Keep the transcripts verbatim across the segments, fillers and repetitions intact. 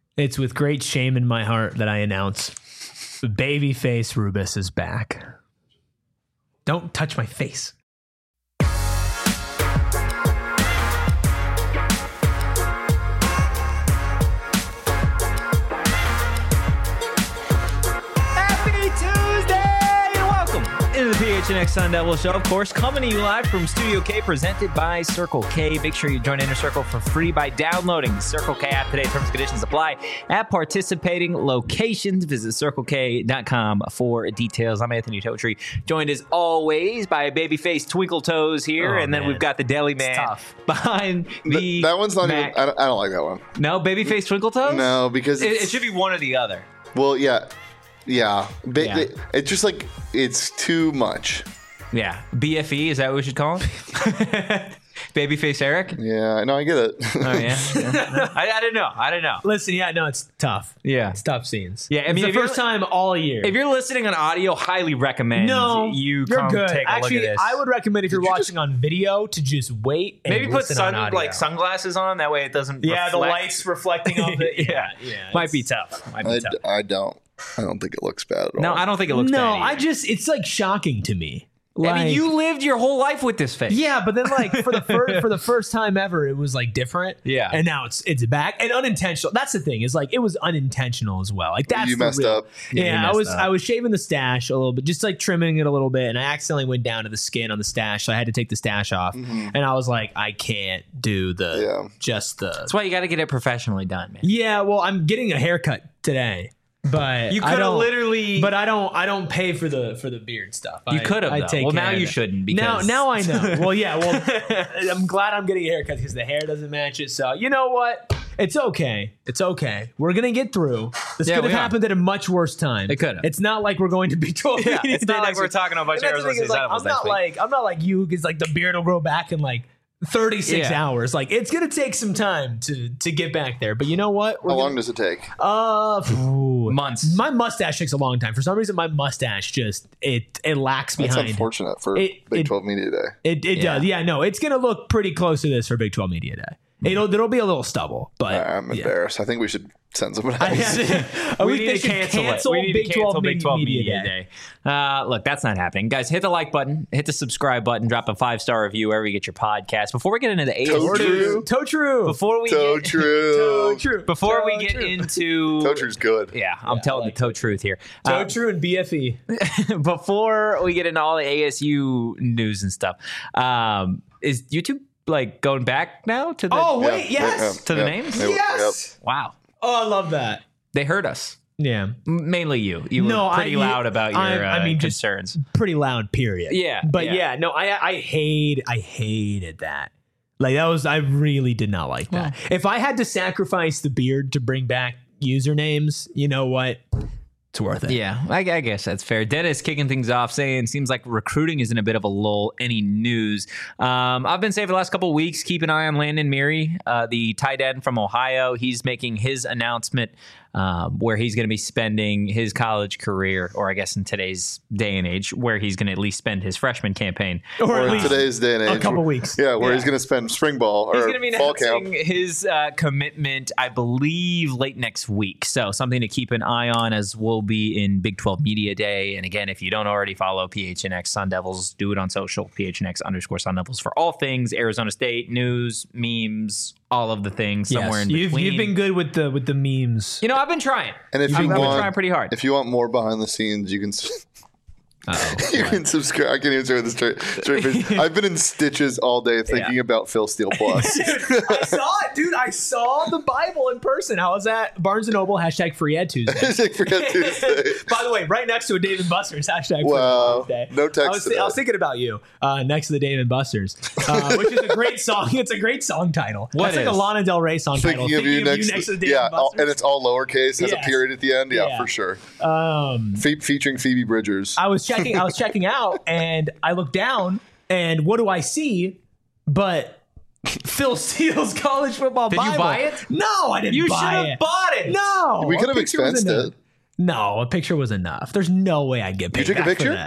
It's with great shame in my heart that I announce Babyface Rubis is back. Don't touch my face. The P H N X Sun Devil Show, of course, coming to you live from Studio K, presented by Circle K. Make sure you join Inner Circle for free by downloading the Circle K app today. Terms and conditions apply at participating locations. Visit circle k dot com for details. I'm Anthony Totri, joined as always by Babyface Twinkle Toes here, oh, and then man. we've got the Deli Man behind the Th- That one's not Mac. even. I don't, I don't like that one. No, Babyface Twinkle Toes. No, because it, it's, it should be one or the other. well, yeah, yeah. Ba- Yeah. It, it's just like it's too much. Yeah, B F E, is that what we should call him? Babyface Eric? Yeah, no, I get it. Oh, yeah? yeah. I, I don't know. I don't know. Listen, yeah, no, it's tough. Yeah. It's tough scenes. Yeah, I mean, it's if the you're- first time all year. If you're listening on audio, highly recommend no, you you're come good. take a Actually, look at this. I would recommend if you're you watching on video to just wait and Maybe put listen sun on audio. like sunglasses on. That way it doesn't Yeah, the reflect. lights reflecting off it. yeah. yeah. Might be it's- tough. Might be I, tough. I don't. I don't think it looks bad at all. No, I don't think it looks No, bad I either. just, it's like shocking to me. I mean, Like- you lived your whole life with this face. Yeah, but then like for the first for the first time ever, it was like different. Yeah. and now it's it's back and unintentional. That's the thing is like it was unintentional as well. Like that's You the messed real- up. Yeah, Yeah, you I messed was up. I was shaving the stash a little bit, just like trimming it a little bit, and I accidentally went down to the skin on the stash, so I had to take the stash off. And I was like, I can't do the Yeah. just the. That's why you got to get it professionally done, man. Yeah, well, I'm getting a haircut today. But You I could have don't- literally. But I don't. I don't pay for the for the beard stuff. You I- could have, I though. take Well, care now of you it. shouldn't, Now, because- now I know. Well, yeah. Well, I'm glad I'm getting a haircut because the hair doesn't match it. So you know what? It's okay. It's okay. We're gonna get through. This Yeah, could have we are. happened at a much worse time. It could have. It's not like we're going to be twelve. Yeah, media it's day not like next we're week. talking about And that's the Arizona thing is, State like, Animals I'm next not week. like I'm not like you because like the beard will grow back in like thirty-six Yeah. hours. Like it's gonna take some time to to get back there. But you know what? We're How gonna- long does it take? uh, phew. Months. My mustache takes a long time. For some reason, my mustache just it it lacks That's behind. unfortunate for It- Big it- twelve Media Day. It it Yeah. does. Yeah, no, it's gonna look pretty close to this for Big twelve Media Day. It'll there'll be a little stubble, but I'm yeah. embarrassed. I think we should send someone I else. had- I we think need they to should cancel, cancel it. We need Big to cancel twelve Big twelve Media Media Day. Day. Uh, look, that's not happening. Guys, hit the like button, hit the subscribe button, drop a five-star review wherever you get your podcast. Before we get into the A S Toe U, true. Toe true. before we So get, true. Toe true. before we Toe get true. into Toe true's good. yeah, I'm Yeah, telling I like the toe truth here. Toe Uh, true and B F E. before we get into all the A S U news and stuff, um, is YouTube like going back now to the Oh Yeah, wait, yeah, yes, yeah, To the yeah. names? They- yes. wow, Oh, I love that. they heard us. Yeah, M- Mainly you. You No, were pretty I- loud about your I- I uh, mean, just- concerns. pretty loud. Period. Yeah, but yeah. yeah, no, I I hate I hated that. Like that was I really did not like that. If I had to sacrifice the beard to bring back usernames, you know what? It's worth it. Yeah, I, I guess that's fair. Dennis kicking things off, saying seems like recruiting is in a bit of a lull. Any news? Um, I've been saying for the last couple of weeks, keep an eye on Landon Meary, uh, the tight end from Ohio. He's making his announcement um, where he's going to be spending his college career, or I guess in today's day and age, where he's going to at least spend his freshman campaign. Or, Or at in least today's day and age. a couple weeks. Yeah, where Yeah. he's going to spend spring ball He's or going to be fall announcing camp. his uh, commitment, I believe, late next week. So something to keep an eye on, as we'll be in Big twelve Media Day. And again, if you don't already follow P H N X Sun Devils, do it on social, P H N X underscore Sun Devils, for all things Arizona State, news, memes, all of the things somewhere Yes. in You've, between. you've been good with the with the memes. You know, I've been trying. And if I've you been want, trying pretty hard. if you want more behind the scenes, you can s- Uh-oh. you can subscribe. I can't even say with the straight, straight face. I've been in stitches all day thinking about Phil Steele Plus. I saw it, dude. I saw the Bible in person. I was at Barnes and Noble. Hashtag Free Ed Tuesday. Hashtag Forget Tuesday. By the way, right next to a Dave and Buster's. Hashtag Wow. Free Ed Tuesday. No text I was, today. I was thinking about you uh, next to the Dave and Buster's, uh, which is a great song. It's a great song title. What That's like is? a Lana Del Rey song title. Thinking of you next, to the Dave yeah, and all, Buster's. and it's all lowercase, has Yes. a period at the end. Yeah, Yeah. for sure. um, Fe- featuring Phoebe Bridgers. I was checking. I was checking out, and I look down, and what do I see? But Phil Steele's college football Did you Bible. buy it? No, I didn't You should buy have it. bought it. No, We a could have picture was expensed enough. it. No, a picture was enough. There's no way I'd get paid took a back for picture? that.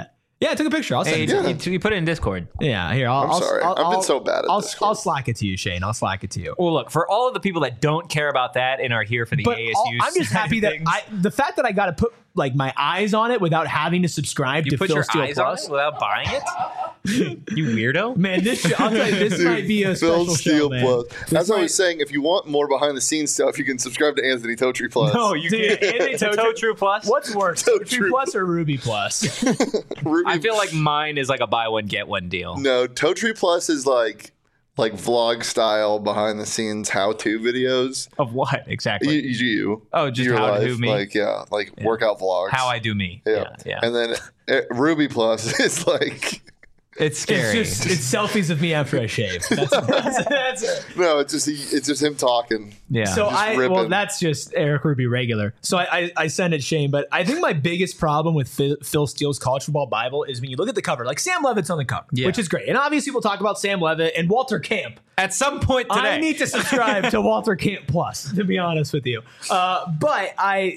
Yeah, I took a picture. I'll send Hey, it. to you, you, you put it in Discord. you. Yeah, here. I'll, I'm I'll, sorry. I'll, I've been I'll- so bad at I'll, Discord. I'll slack it to you, Shane. I'll slack it to you. Well, look, for all of the people that don't care about that and are here for the But A S all- U, I'm just happy that things, I the fact that I got to put like my eyes on it without having to subscribe you to put Phil your Steele eyes Plus. on it without buying it. You weirdo. Man, this I'll tell you, this might be a Phil special Steele show, man. Plus. This As I might- was saying, if you want more behind the scenes stuff, you can subscribe to Anthony Totri Plus. No, you Dude, can't. Anthony It's a Totri- Toe True Plus. What's worse, So True true. Plus or Ruby Plus? Ruby, I feel like mine is like a buy one get one deal. no, Totri Plus is like like vlog style behind the scenes how to videos. Of what You, exactly? you Oh, just your how to life, do me. like yeah, like workout vlogs. How I do me. yeah. Yeah, yeah. And then uh, Ruby Plus is like It's scary. It's just it's selfies of me after I shave. That's, that's, that's it. no, it's just it's just him talking. yeah. So Just I well, ripping. that's just Eric Ruby regular. So I, I I send it Shane, but I think my biggest problem with Phil, Phil Steele's College Football Bible is when you look at the cover, like Sam Levitt's on the cover, Yeah. which is great, and obviously we'll talk about Sam Levitt and Walter Camp. at some point today, I need to subscribe to Walter Camp Plus, to be honest with you. Uh, but I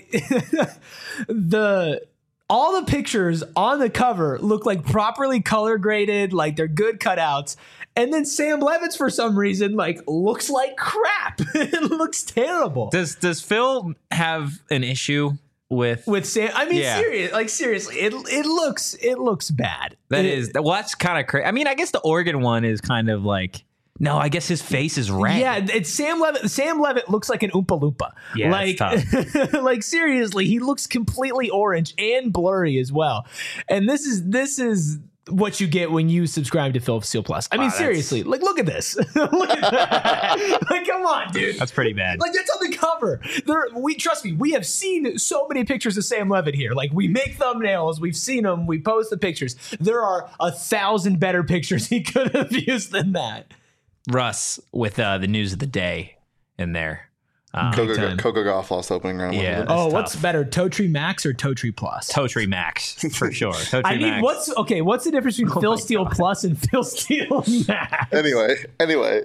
the. All the pictures on the cover look like properly color graded, like they're good cutouts. And then Sam Levitt's, for some reason, like looks like crap. It looks terrible. does does Phil have an issue with With Sam, I mean, Yeah. serious, like seriously, it it looks it looks bad. that? It- Is well, that's kind of crazy. I mean, I guess the Oregon one is kind of like no. I guess his face is red. Yeah, it's Sam Levitt. Sam Levitt looks like an Oompa Loompa. Yeah, like, it's like seriously, he looks completely orange and blurry as well. And this is this is what you get when you subscribe to Phil Steele Plus. I mean, Wow, that's- seriously, like look at this. Look at that. Like, come on, dude. that's pretty bad. Like that's on the cover. There, we trust me. We have seen so many pictures of Sam Levitt here. Like we make thumbnails. We've seen them. We post the pictures. There are a thousand better pictures he could have used than that. Russ with uh, the news of the day in there. Um, Big Coco, time. Coco Gauff lost opening round. Yeah. win. That's Oh, what's tough. better, Totri Max or Totri Plus? Totri Max for sure. Totri I need Max. what's okay. What's the difference between Phil my Steele Plus and Phil Steele Max? Anyway, anyway,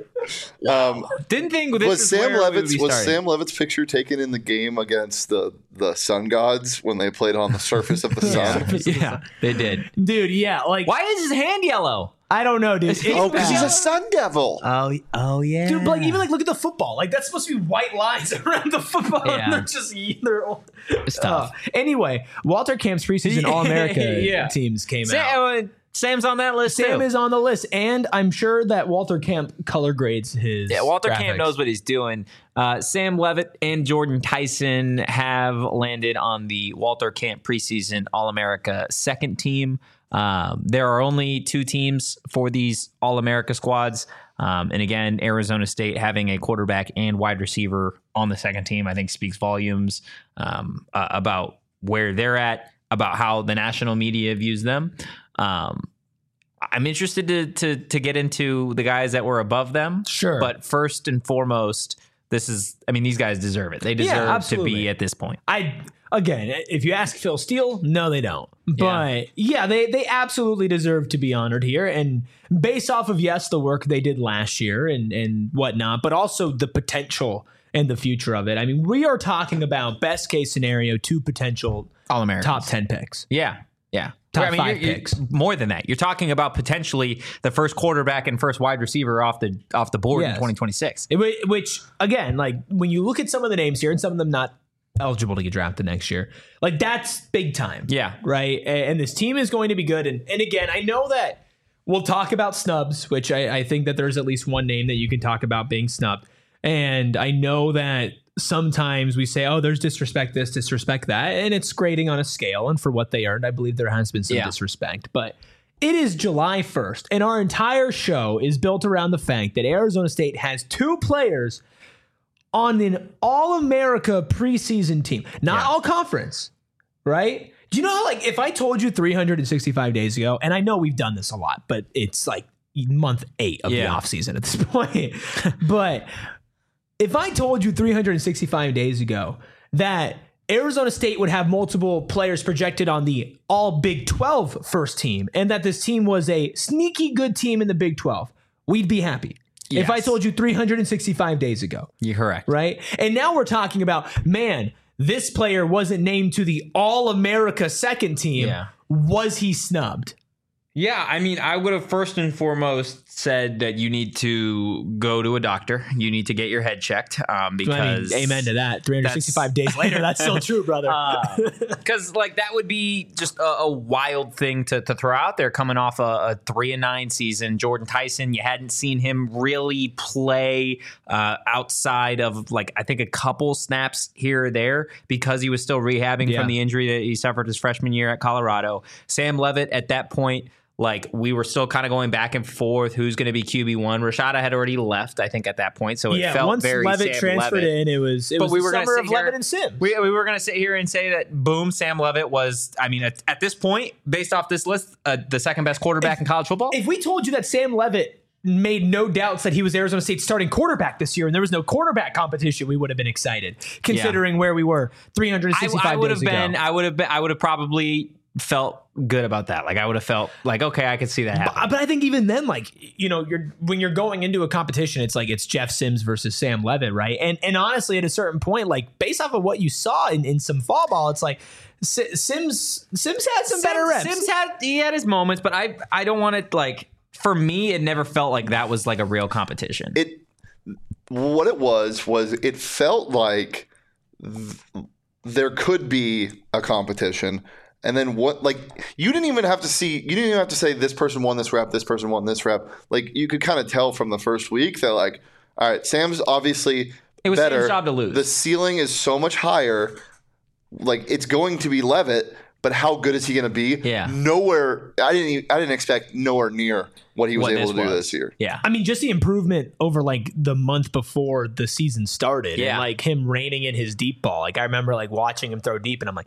um, Didn't think this was is Sam where we would Levitt's be was starting. Sam Levitt's picture taken in the game against the the Sun Gods when they played on the surface of the sun? Yeah, they did. Dude, yeah, like Why is his hand yellow? I don't know, dude. It's Oh, because he's bad. a Sun Devil. Oh, oh yeah. Dude, but like even like look at the football. Like that's supposed to be white lines around the football. Yeah. And they're just they're all, It's tough. Uh, anyway, Walter Camp's preseason All America Yeah. teams came out. Sam, uh, Sam's on that list Sam too. is on the list, and I'm sure that Walter Camp color grades his. Yeah, Walter graphics. Camp knows what he's doing. Uh, Sam Levitt and Jordan Tyson have landed on the Walter Camp preseason All-America second team. Um, there are only two teams for these All-America squads. Um, and again, Arizona State having a quarterback and wide receiver on the second team, I think speaks volumes um, uh, about where they're at, about how the national media views them. Um, I'm interested to, to to get into the guys that were above them. Sure. But first and foremost, this is, I mean, these guys deserve it. They deserve to absolutely. be at this point. I again, if you ask Phil Steele, no, they don't. But yeah, they they absolutely deserve to be honored here, and based off of yes, the work they did last year and and whatnot, but also the potential and the future of it. I mean, we are talking about best case scenario, two potential All Americans. top ten picks. Yeah. Yeah. Top I mean, five you're- you're- picks. More than that. You're talking about potentially the first quarterback and first wide receiver off the off the board Yes. in twenty twenty-six. It wa- Which again, like when you look at some of the names here, and some of them not eligible to get drafted next year, like that's big time. Yeah. Right. A- And this team is going to be good. And and again, I know that we'll talk about snubs, which I, I think that there's at least one name that you can talk about being snubbed. And I know that sometimes we say, oh, there's disrespect this, disrespect that, and it's grading on a scale. And for what they earned, I believe there has been some Yeah. disrespect. But it is July first, and our entire show is built around the fact that Arizona State has two players on an All-America preseason team, not Yeah. all conference, right? Do you know how, like, if I told you three hundred sixty-five days ago, and I know we've done this a lot, but it's like month eight of Yeah. the offseason at this point. But if I told you three hundred sixty-five days ago that Arizona State would have multiple players projected on the all Big twelve first team, and that this team was a sneaky good team in the Big twelve, we'd be happy. If I Yes. told you three hundred sixty-five days ago, You're correct. right? And now we're talking about, man, this player wasn't named to the All-America second team. Yeah. Was he snubbed? Yeah, I mean, I would have first and foremost said that you need to go to a doctor. You need to get your head checked um, because... I mean, amen to that. three hundred sixty-five days later, that's still true, brother. Because, uh, like, that would be just a, a wild thing to, to throw out there coming off a, a three and nine season. Jordan Tyson, you hadn't seen him really play uh, outside of, like, I think a couple snaps here or there because he was still rehabbing Yeah. from the injury that he suffered his freshman year at Colorado. Sam Levitt, at that point... Like, we were still kind of going back and forth. Who's going to be Q B one? Rashada had already left, I think, at that point. So it yeah, felt once very Levitt Sam transferred Levitt. in, it was it But was we the were gonna summer sit of here- Levitt and Sims. We, we were going to sit here and say that, boom, Sam Levitt was, I mean, at, at this point, based off this list, uh, the second best quarterback in college football. If we told you that Sam Levitt made no doubts that he was Arizona State's starting quarterback this year and there was no quarterback competition, we would have been excited, considering yeah. where we were three hundred sixty-five I, I would have days been, ago. I would have been, I would have probably felt good about that. Like, I would have felt like, okay, I could see that happen. But, but I think even then, like, you know, you're when you're going into a competition, it's like it's Jeff Sims versus Sam Levitt, right? And and honestly, at a certain point, like based off of what you saw in, in some fall ball, it's like Sims Sims had some Sims, better reps. Sims had he had his moments, but I I don't want it like for me, it never felt like that was like a real competition. It what it was was it felt like th- there could be a competition. And then what, like, you didn't even have to see, you didn't even have to say this person won this rep, this person won this rep. Like, you could kind of tell from the first week that, like, all right, Sam's obviously it was better. Sam's job to lose. The ceiling is so much higher. Like, it's going to be Levitt, but how good is he going to be? Yeah. Nowhere, I didn't even, I didn't expect nowhere near what he was What able this to do was. this year. Yeah. I mean, just the improvement over like the month before the season started, Yeah. and like him reining in his deep ball. Like I remember like watching him throw deep, and I'm like,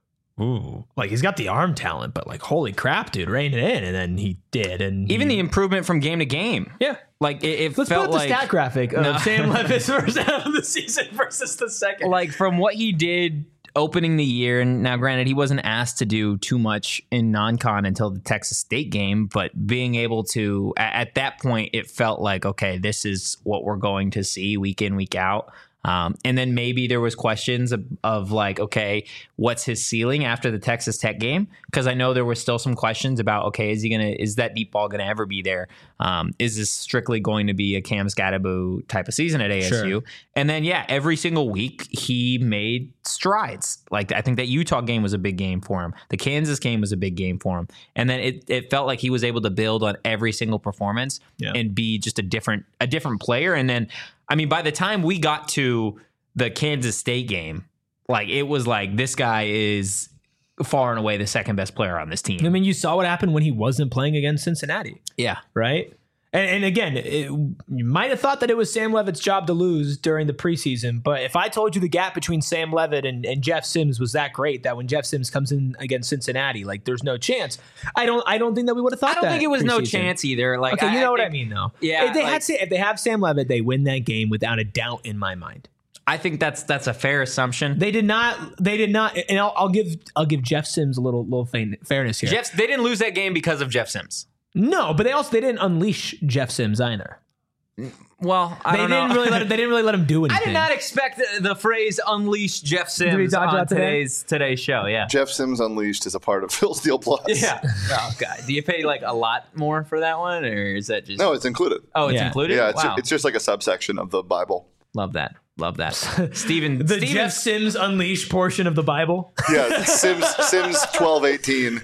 ooh, like he's got the arm talent, but like holy crap, dude, rein it in, and then he did, and Even he, the improvement from game to game. yeah. Like, it, it Let's felt put up the like stat graphic of No. Sam Levitt's first half of the season versus the second. like from what he did opening the year, and now granted he wasn't asked to do too much in non-con until the Texas State game, but being able to at, at that point it felt like, okay, this is what we're going to see week in, week out. Um, and then maybe there was questions of, of like, okay, what's his ceiling after the Texas Tech game? Because I know there were still some questions about, okay, is he gonna, is that deep ball gonna ever be there? Um, is this strictly going to be a Cam Scatterbo type of season at A S U? Sure. And then yeah, every single week he made strides. Like I think that Utah game was a big game for him. The Kansas game was a big game for him. And then it, it felt like he was able to build on every single performance Yeah. and be just a different a different player. And then I mean, by the time we got to the Kansas State game, like it was like this guy is far and away the second best player on this team. I mean, you saw what happened when he wasn't playing against Cincinnati, yeah. right? And, and again, it, you might have thought that it was Sam Levitt's job to lose during the preseason, but if I told you the gap between Sam Levitt and, and Jeff Sims was that great, that when Jeff Sims comes in against Cincinnati, like there's no chance. I don't. I don't think that we would have thought. I don't that think it was no preseason. chance either. Like, Okay, you know I what I think- mean, though. Yeah, if they like- had if they have Sam Levitt, they win that game without a doubt in my mind. I think that's that's a fair assumption. They did not. They did not. And I'll, I'll give I'll give Jeff Sims a little little fain- fairness here. Jeff, they didn't lose that game because of Jeff Sims. No, but they also they didn't unleash Jeff Sims either. Well, I They don't didn't know. really let him, they didn't really let him do anything. I did not expect the, the phrase "unleash Jeff Did we Sims" talk on about today? today's today's show. Yeah. Jeff Sims Unleashed is a part of Phil Steele Plus. Yeah. Oh god. Do you pay like a lot more for that one, or is that just? No, it's included. Oh, it's Yeah. included. Yeah, it's, Wow. it's just like a subsection of the Bible. Love that. Love that. Steven. the Steven, Jeff Sims unleashed portion of the Bible. Yeah, Sims Sims twelve eighteen.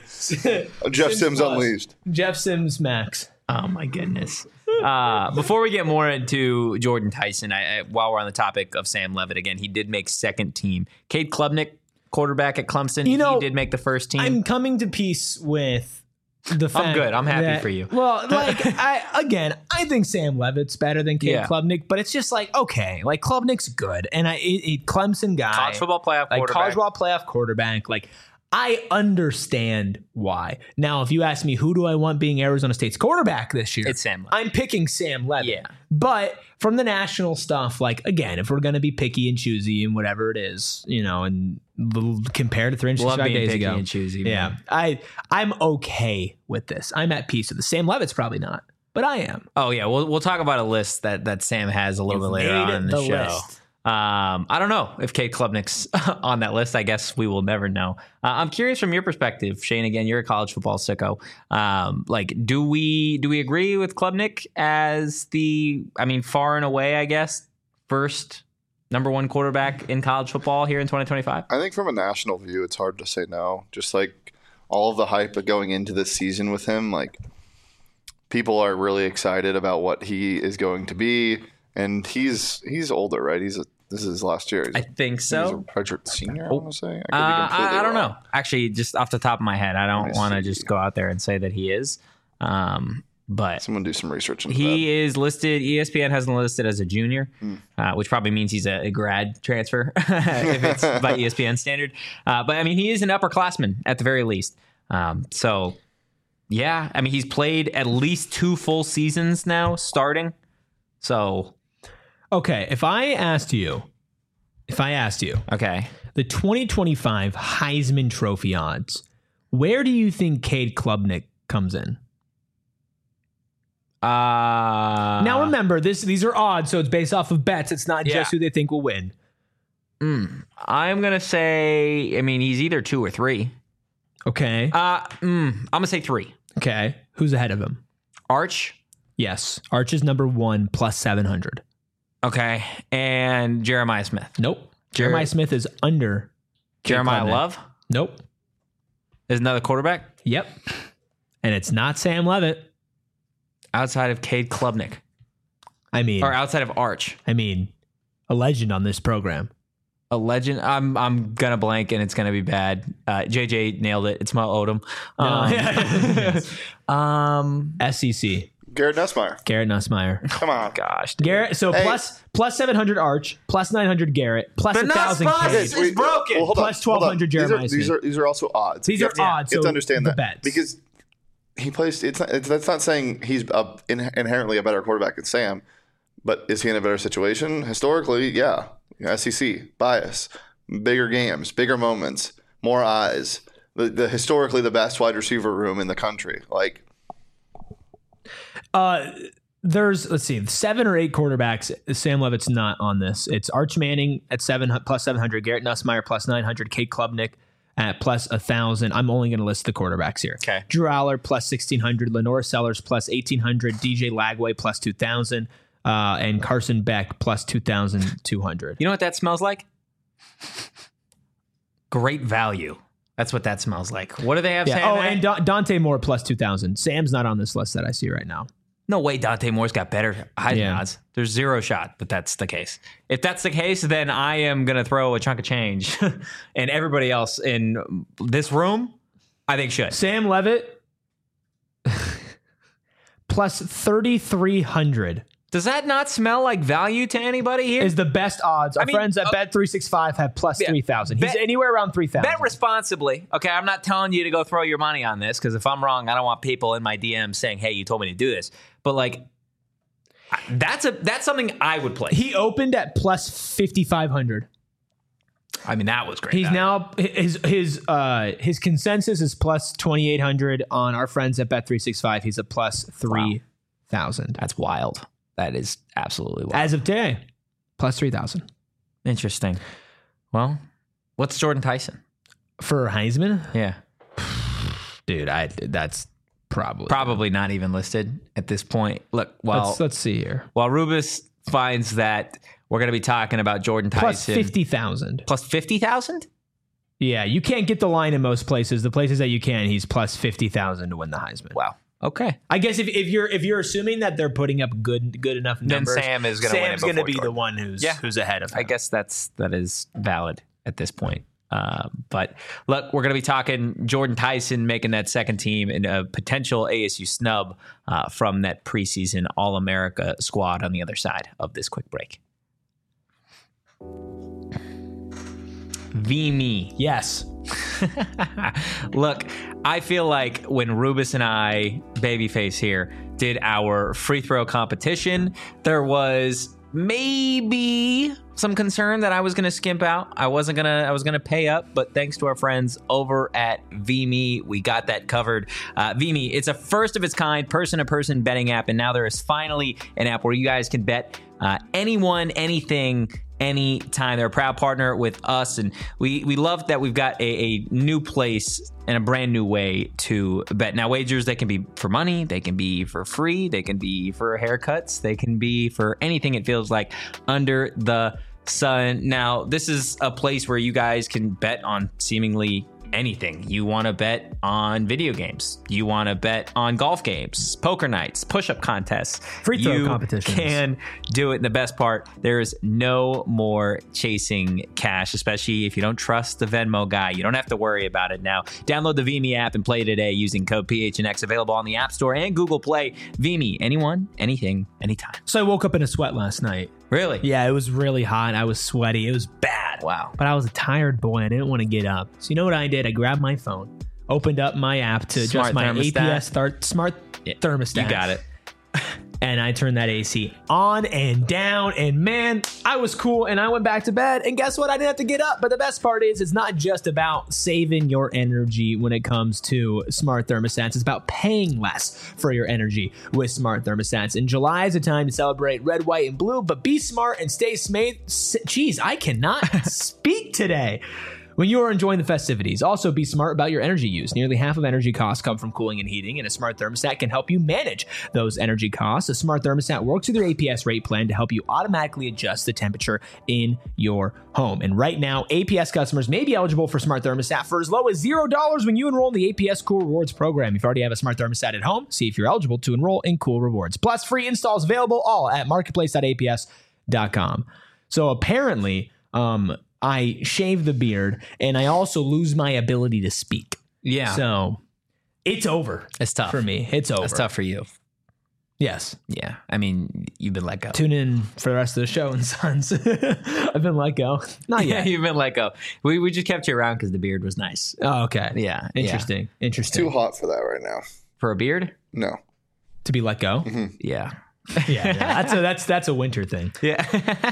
Jeff Sims Plus. Unleashed. Jeff Sims Max. Oh my goodness. Uh, before we get more into Jordan Tyson, I, I, while we're on the topic of Sam Levitt again, he did make second team. Cade Klubnik, quarterback at Clemson, You know, he did make the first team. I'm coming to peace with the fact good. I'm happy that- for you. Well, like I again, I think Sam Levitt's better than Cade Yeah. Klubnik, but it's just like okay, like Klubnik's good, and I it, it, Clemson guy, College football playoff like quarterback. college football playoff quarterback, like. I understand why. Now, if you ask me who do I want being Arizona State's quarterback this year, It's Sam Levitt. I'm picking Sam Levitt. Yeah. But from the national stuff, like again, if we're gonna be picky and choosy and whatever it is, you know, and l- compared to three hundred Love sixty-five being days picky ago, and choosy. yeah, man. I I'm okay with this. I'm at peace with this. Sam Levitt's probably not, but I am. Oh yeah, we'll we'll talk about a list that that Sam has a little You've bit later made on in it the, the show. list. Um, I don't know if Cade Klubnik's on that list. I guess we will never know. Uh, I'm curious from your perspective, Shane. Again, you're a college football sicko. Um, like, do we do we agree with Klubnik as the, I mean, far and away, I guess, first number one quarterback in college football here in twenty twenty-five? I think from a national view, it's hard to say no. Just like all of the hype going into this season with him, like people are really excited about what he is going to be. And he's he's older, right? He's a, this is his last year. He's, I think so. He's a redshirt senior, I want to say. I, could be Uh, I, I don't wrong. know. Actually, just off the top of my head, I don't Let me want to see. just go out there and say that he is. Um, but Someone do some research into he is listed. E S P N has him listed as a junior, uh, which probably means he's a, a grad transfer if it's by E S P N standard. Uh, but I mean, he is an upperclassman at the very least. Um, so, yeah, I mean, he's played at least two full seasons now starting. So, Okay, if I asked you, if I asked you okay. the twenty twenty-five Heisman Trophy odds, where do you think Cade Klubnik comes in? Uh, Now remember, this these are odds, so it's based off of bets. It's not Yeah. just who they think will win. I'm going to say, I mean, he's either two or three. Okay. Uh, mm, I'm going to say three. Okay. Who's ahead of him? Arch. Yes. Arch is number one plus seven hundred. Okay. And Jeremiah Smith. Nope. Jer- Jeremiah Smith is under Cade Jeremiah Klubnik. Love Nope. is another quarterback Yep. And it's not Sam Levitt. outside of Cade Klubnik I mean, or outside of Arch. I mean, a legend on this program. A legend. I'm I'm gonna blank and it's gonna be bad. Uh, J J nailed it. It's Mo Odom. Um, um, S E C. that. Garrett Nussmeier. Garrett Nussmeier. Come on. gosh, dude. Garrett. So Hey. plus plus seven hundred Arch, plus nine hundred Garrett, plus But a not thousand Spice. Cade. It's broken. Well, hold on, Plus hold on. twelve hundred Jeremiah These are, these Smith. are these are also odds. These You are have to- odds. You have so to understand the that bets. because he plays. It's not. It's, that's not saying he's a, in, inherently a better quarterback than Sam, but is he in a better situation historically? Yeah, S E C bias, bigger games, bigger moments, more eyes. The, the historically the best wide receiver room in the country. Like Uh, there's let's see, seven or eight quarterbacks. Sam Levitt's not on this. It's Arch Manning at seven plus seven hundred, Garrett Nussmeier plus nine hundred, Cade Klubnik at plus a thousand. I'm only going to list the quarterbacks here. Okay. Drew Aller plus sixteen hundred, Lenore Sellers plus eighteen hundred, D J Lagway plus two thousand, uh, and Carson Beck plus two thousand two hundred. You know what that smells like? Great value. That's what that smells like. What do they have? Yeah. saying Oh, that? and Da- Dante Moore plus two thousand. Sam's not on this list that I see right now. No way Dante Moore's got better Heisman Yeah. odds. There's zero shot that that's the case. If that's the case, then I am going to throw a chunk of change. And everybody else in this room, I think should. Sam Levitt plus thirty-three hundred Does that not smell like value to anybody here? is the best odds. Our I mean, friends at uh, Bet three sixty-five have plus yeah. three thousand. He's Bet- anywhere around three thousand. Bet responsibly. Okay, I'm not telling you to go throw your money on this because if I'm wrong, I don't want people in my D Ms saying, "Hey, you told me to do this." But like, I- that's a that's something I would play. He opened at plus fifty-five hundred. I mean, that was great. He's value. now his his uh his consensus is plus twenty-eight hundred on our friends at Bet three sixty-five. He's a plus three thousand. That's wild. That is absolutely wild. As of today, plus three thousand. Interesting. Well, what's Jordan Tyson? For Heisman? Yeah. Dude, I that's probably Probably not even listed at this point. Look, while let's let's see here. while Rubus finds that we're going to be talking about Jordan Tyson Plus fifty thousand. plus fifty thousand. Yeah, you can't get the line in most places. The places that you can, he's plus fifty thousand to win the Heisman. Wow. Okay. I guess if, if you're if you're assuming that they're putting up good good enough Then numbers, Sam is gonna win it Sam's going to before be the Jordan. one who's Yeah. who's ahead of him. I guess that's that is valid at this point. Uh, but look, we're going to be talking Jordan Tyson making that second team and a potential A S U snub uh, from that preseason All-America squad on the other side of this quick break. V-Me. Yes. Look, I feel like when Rubus and I, Babyface here, did our free throw competition, there was maybe some concern that I was going to skimp out. I wasn't going to, I was going to pay up, but thanks to our friends over at V-Me, we got that covered. Uh, V-Me, it's a first of its kind person-to-person betting app, and now there is finally an app where you guys can bet uh, anyone, anything, anytime. They're a proud partner with us, and we, we love that we've got a, a new place and a brand new way to bet. Now, wagers, they can be for money, they can be for free, they can be for haircuts, they can be for anything it feels like under the sun. Now, this is a place where you guys can bet on seemingly anything. You want to bet on video games. You want to bet on golf games, poker nights, push-up contests. Free throw you competitions. Can do it. And the best part, there is no more chasing cash, especially if you don't trust the Venmo guy. You don't have to worry about it now. Download the Vimy app and play today using code P H N X, available on the App Store and Google Play. Vimy, anyone, anything, anytime. So I woke up in a sweat last night. Really? Yeah, it was really hot. I was sweaty. It was bad. Wow. But I was a tired boy. I didn't want to get up. So you know what I did? I grabbed my phone, opened up my app to Smart adjust my thermostat. A P S start, smart Yeah, thermostat. You got it. And I turned that A C on and down, and man, I was cool, and I went back to bed, and guess what? I didn't have to get up. But the best part is it's not just about saving your energy when it comes to smart thermostats. It's about paying less for your energy with smart thermostats. And July is a time to celebrate red, white, and blue, but be smart and stay smart. Jeez, I cannot speak today. When you are enjoying the festivities, also be smart about your energy use. Nearly half of energy costs come from cooling and heating, and a smart thermostat can help you manage those energy costs. A smart thermostat works with your A P S rate plan to help you automatically adjust the temperature in your home. And right now, A P S customers may be eligible for smart thermostat for as low as zero dollars when you enroll in the A P S Cool Rewards program. If you already have a smart thermostat at home, see if you're eligible to enroll in Cool Rewards. Plus, free installs available all at marketplace dot A P S dot com. So apparently, um, I shave the beard, and I also lose my ability to speak. Yeah. So it's over. It's tough. For me. It's over. It's tough for you. Yes. Yeah. I mean, you've been let go. Tune in for the rest of the show and Sons. I've been let go. Not Yeah, yet. you've been let go. We, we just kept you around because the beard was nice. Oh, okay. Yeah. Interesting. Interesting. Too hot for that right now. For a beard? No. To be let go? Mm-hmm. Yeah. Yeah. yeah. That's a that's that's a winter thing. Yeah.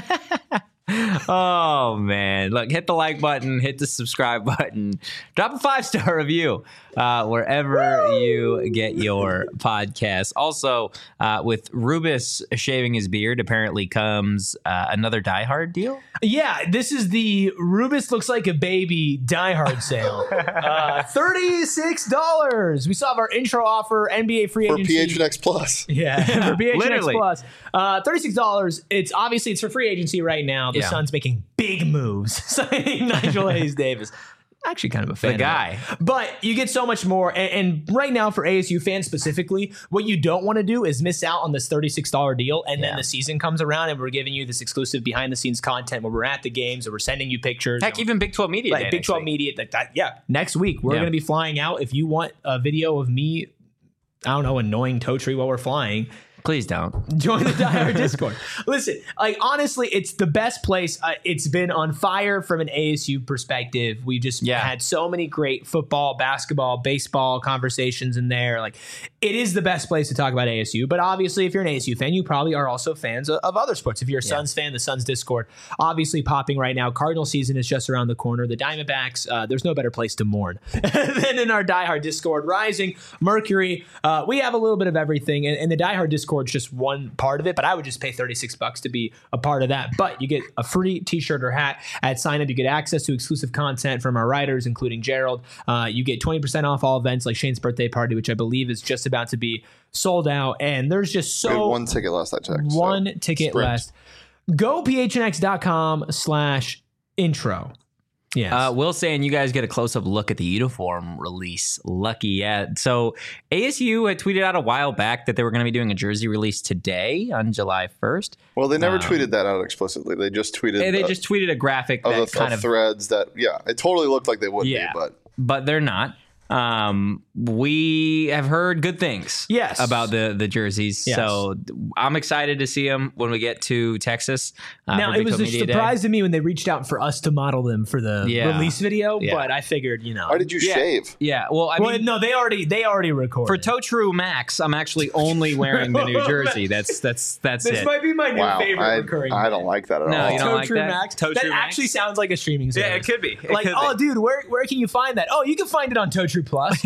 Oh man, look, hit the like button, hit the subscribe button, drop a five star review uh, wherever Woo! you get your podcast. Also, uh, with Rubus shaving his beard, apparently comes uh, another Die Hard deal. Yeah, this is the Rubus looks like a baby Die Hard sale. uh, thirty-six dollars. We still have our intro offer, N B A free For agency. P H N X Plus. Yeah, for P H N X Literally. Plus. Uh, thirty-six dollars. It's obviously it's for free agency right now. The Yeah. Suns making big moves, signing Nigel Hayes Davis. Actually, kind of a fan. The of guy. it. But you get so much more. And, and right now, for A S U fans specifically, what you don't want to do is miss out on this thirty-six dollars deal. And Yeah. then the season comes around, and we're giving you this exclusive behind the scenes content where we're at the games, or we're sending you pictures. Heck, even Big twelve Media like Day Big next twelve week. Media. Like that, yeah, next week we're Yeah. going to be flying out. If you want a video of me, I don't know, annoying Totri while we're flying, Please don't. join the Die Hard Discord. Listen, like honestly, it's the best place. Uh, it's been on fire from an A S U perspective. We just Yeah. had so many great football, basketball, baseball conversations in there. Like, it is the best place to talk about A S U. But obviously, if you're an A S U fan, you probably are also fans of, of other sports. If you're a Suns fan, the Suns Discord obviously popping right now. Cardinal season is just around the corner. The Diamondbacks, uh, there's no better place to mourn than in our Die Hard Discord. Rising, Mercury, uh, we have a little bit of everything, and, and the Die Hard Discord is just one part of it. But I would just pay thirty-six bucks to be a part of that. But you get a free T-shirt or hat at sign up. You get access to exclusive content from our writers, including Gerald. Uh, you get twenty percent off all events like Shane's birthday party, which I believe is just about to be sold out. And there's just We had so one ticket last I checked. so one ticket sprint. left. Go P H N X dot com slash intro. Yes. Uh, Will saying you guys get a close-up look at the uniform release. Lucky, yeah. So A S U had tweeted out a while back that they were going to be doing a jersey release today on July first. Well, they never Um, tweeted that out explicitly. They just tweeted They, they uh, just tweeted a graphic of that the kind of of, threads that, yeah, it totally looked like they would Yeah. be, but but they're not. Um, we have heard good things, Yes. about the the jerseys. Yes. So I'm excited to see them when we get to Texas. Uh, now, for it Big was twelve a Media Day. surprise to me when they reached out for us to model them for the Yeah. release video, Yeah. but I figured, you know. why did you Yeah. shave? Yeah, well, I well, mean, no, they already they already recorded. for Totru Max, I'm actually only wearing the new jersey. That's that's that's this it. might be my new Wow, favorite I, recurring. I don't like that at No, all. you don't like Totru that? Max. Totru that Max? actually sounds like a streaming service. Yeah, it could be. It like, could oh, be. dude, where where can you find that? Oh, you can find it on Totru Plus.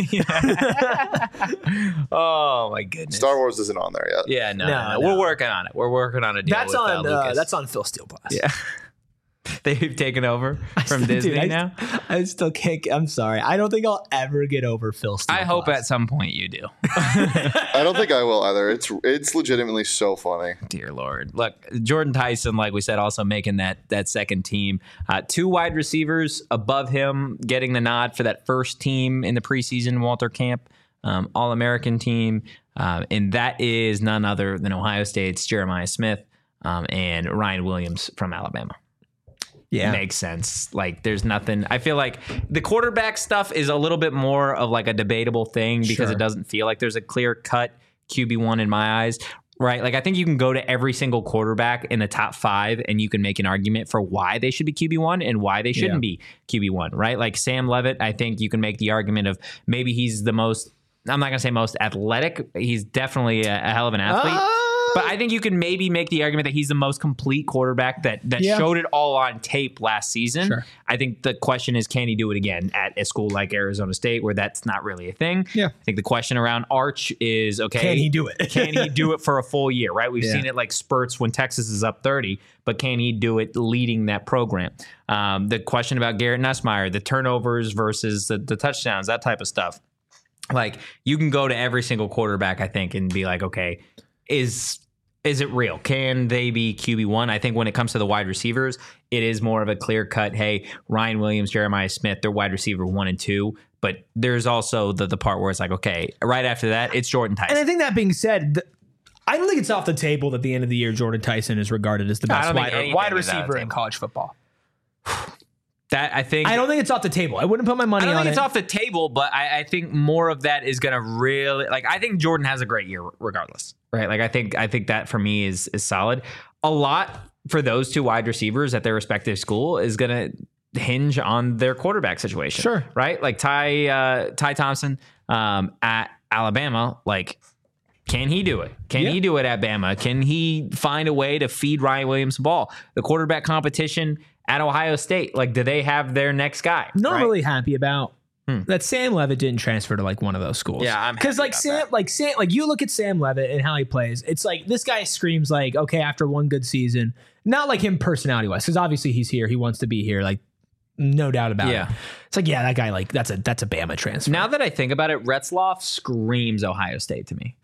Oh my goodness. Star Wars isn't on there yet. Yeah, no, No, no, no. no. We're working on it. We're working on a deal That's with, on uh, uh, Lucas. that's on Phil Steel Plus. Yeah. They've taken over from Dude, Disney I, now. I still can't. I'm sorry. I don't think I'll ever get over Phil Steele. I hope Plus. at some point you do. I don't think I will either. It's it's legitimately so funny. Dear Lord. Look, Jordan Tyson, like we said, also making that that second team. Uh, two wide receivers above him getting the nod for that first team in the preseason Walter Camp um, All-American team. Uh, and that is none other than Ohio State's Jeremiah Smith um, and Ryan Williams from Alabama. Yeah. Makes sense. Like, there's nothing. I feel like the quarterback stuff is a little bit more of like a debatable thing because Sure. it doesn't feel like there's a clear cut Q B one in my eyes, right? Like, I think you can go to every single quarterback in the top five and you can make an argument for why they should be Q B one and why they shouldn't Yeah. be Q B one, right? Like Sam Levitt, I think you can make the argument of maybe he's the most, I'm not going to say most athletic. He's definitely a, a hell of an athlete. Uh, But I think you can maybe make the argument that he's the most complete quarterback that that Yeah. showed it all on tape last season. Sure. I think the question is, can he do it again at a school like Arizona State where that's not really a thing? Yeah. I think the question around Arch is, okay, Can he do it? can he do it for a full year, right? We've Yeah. seen it like spurts when Texas is up thirty, but can he do it leading that program? Um, the question about Garrett Nussmeier, the turnovers versus the, the touchdowns, that type of stuff. Like, you can go to every single quarterback, I think, and be like, okay, is is it real? Can they be Q B one? I think when it comes to the wide receivers, it is more of a clear cut, hey, Ryan Williams, Jeremiah Smith, they're wide receiver one and two. But there's also the, the part where it's like, okay, right after that, it's Jordan Tyson. And I think that being said, th- I don't think it's off the table that at the end of the year, Jordan Tyson is regarded as the No, I best don't think wide, anything wide is out of receiver the in table. college football. that I think I don't think it's off the table. I wouldn't put my money I don't on think it's it. off the table, but I, I think more of that is going to really, like, I think Jordan has a great year regardless, right? Like, I think I think that for me is is solid. A lot for those two wide receivers at their respective school is going to hinge on their quarterback situation, Sure. right? Like Ty uh, Ty Thompson um, at Alabama, like. Can he do it? Can Yeah. he do it at Bama? Can he find a way to feed Ryan Williams the ball? The quarterback competition at Ohio State, like, do they have their next guy? Not right? really happy about Hmm. that Sam Levitt didn't transfer to like one of those schools. Yeah, I'm because happy like about Sam, that. like Sam, like you look at Sam Levitt and how he plays. It's like this guy screams like, okay, after one good season, not like him personality wise, because obviously he's here, he wants to be here, like no doubt about Yeah. it. It's like, yeah, that guy, like that's a that's a Bama transfer. Now that I think about it, Retzloff screams Ohio State to me.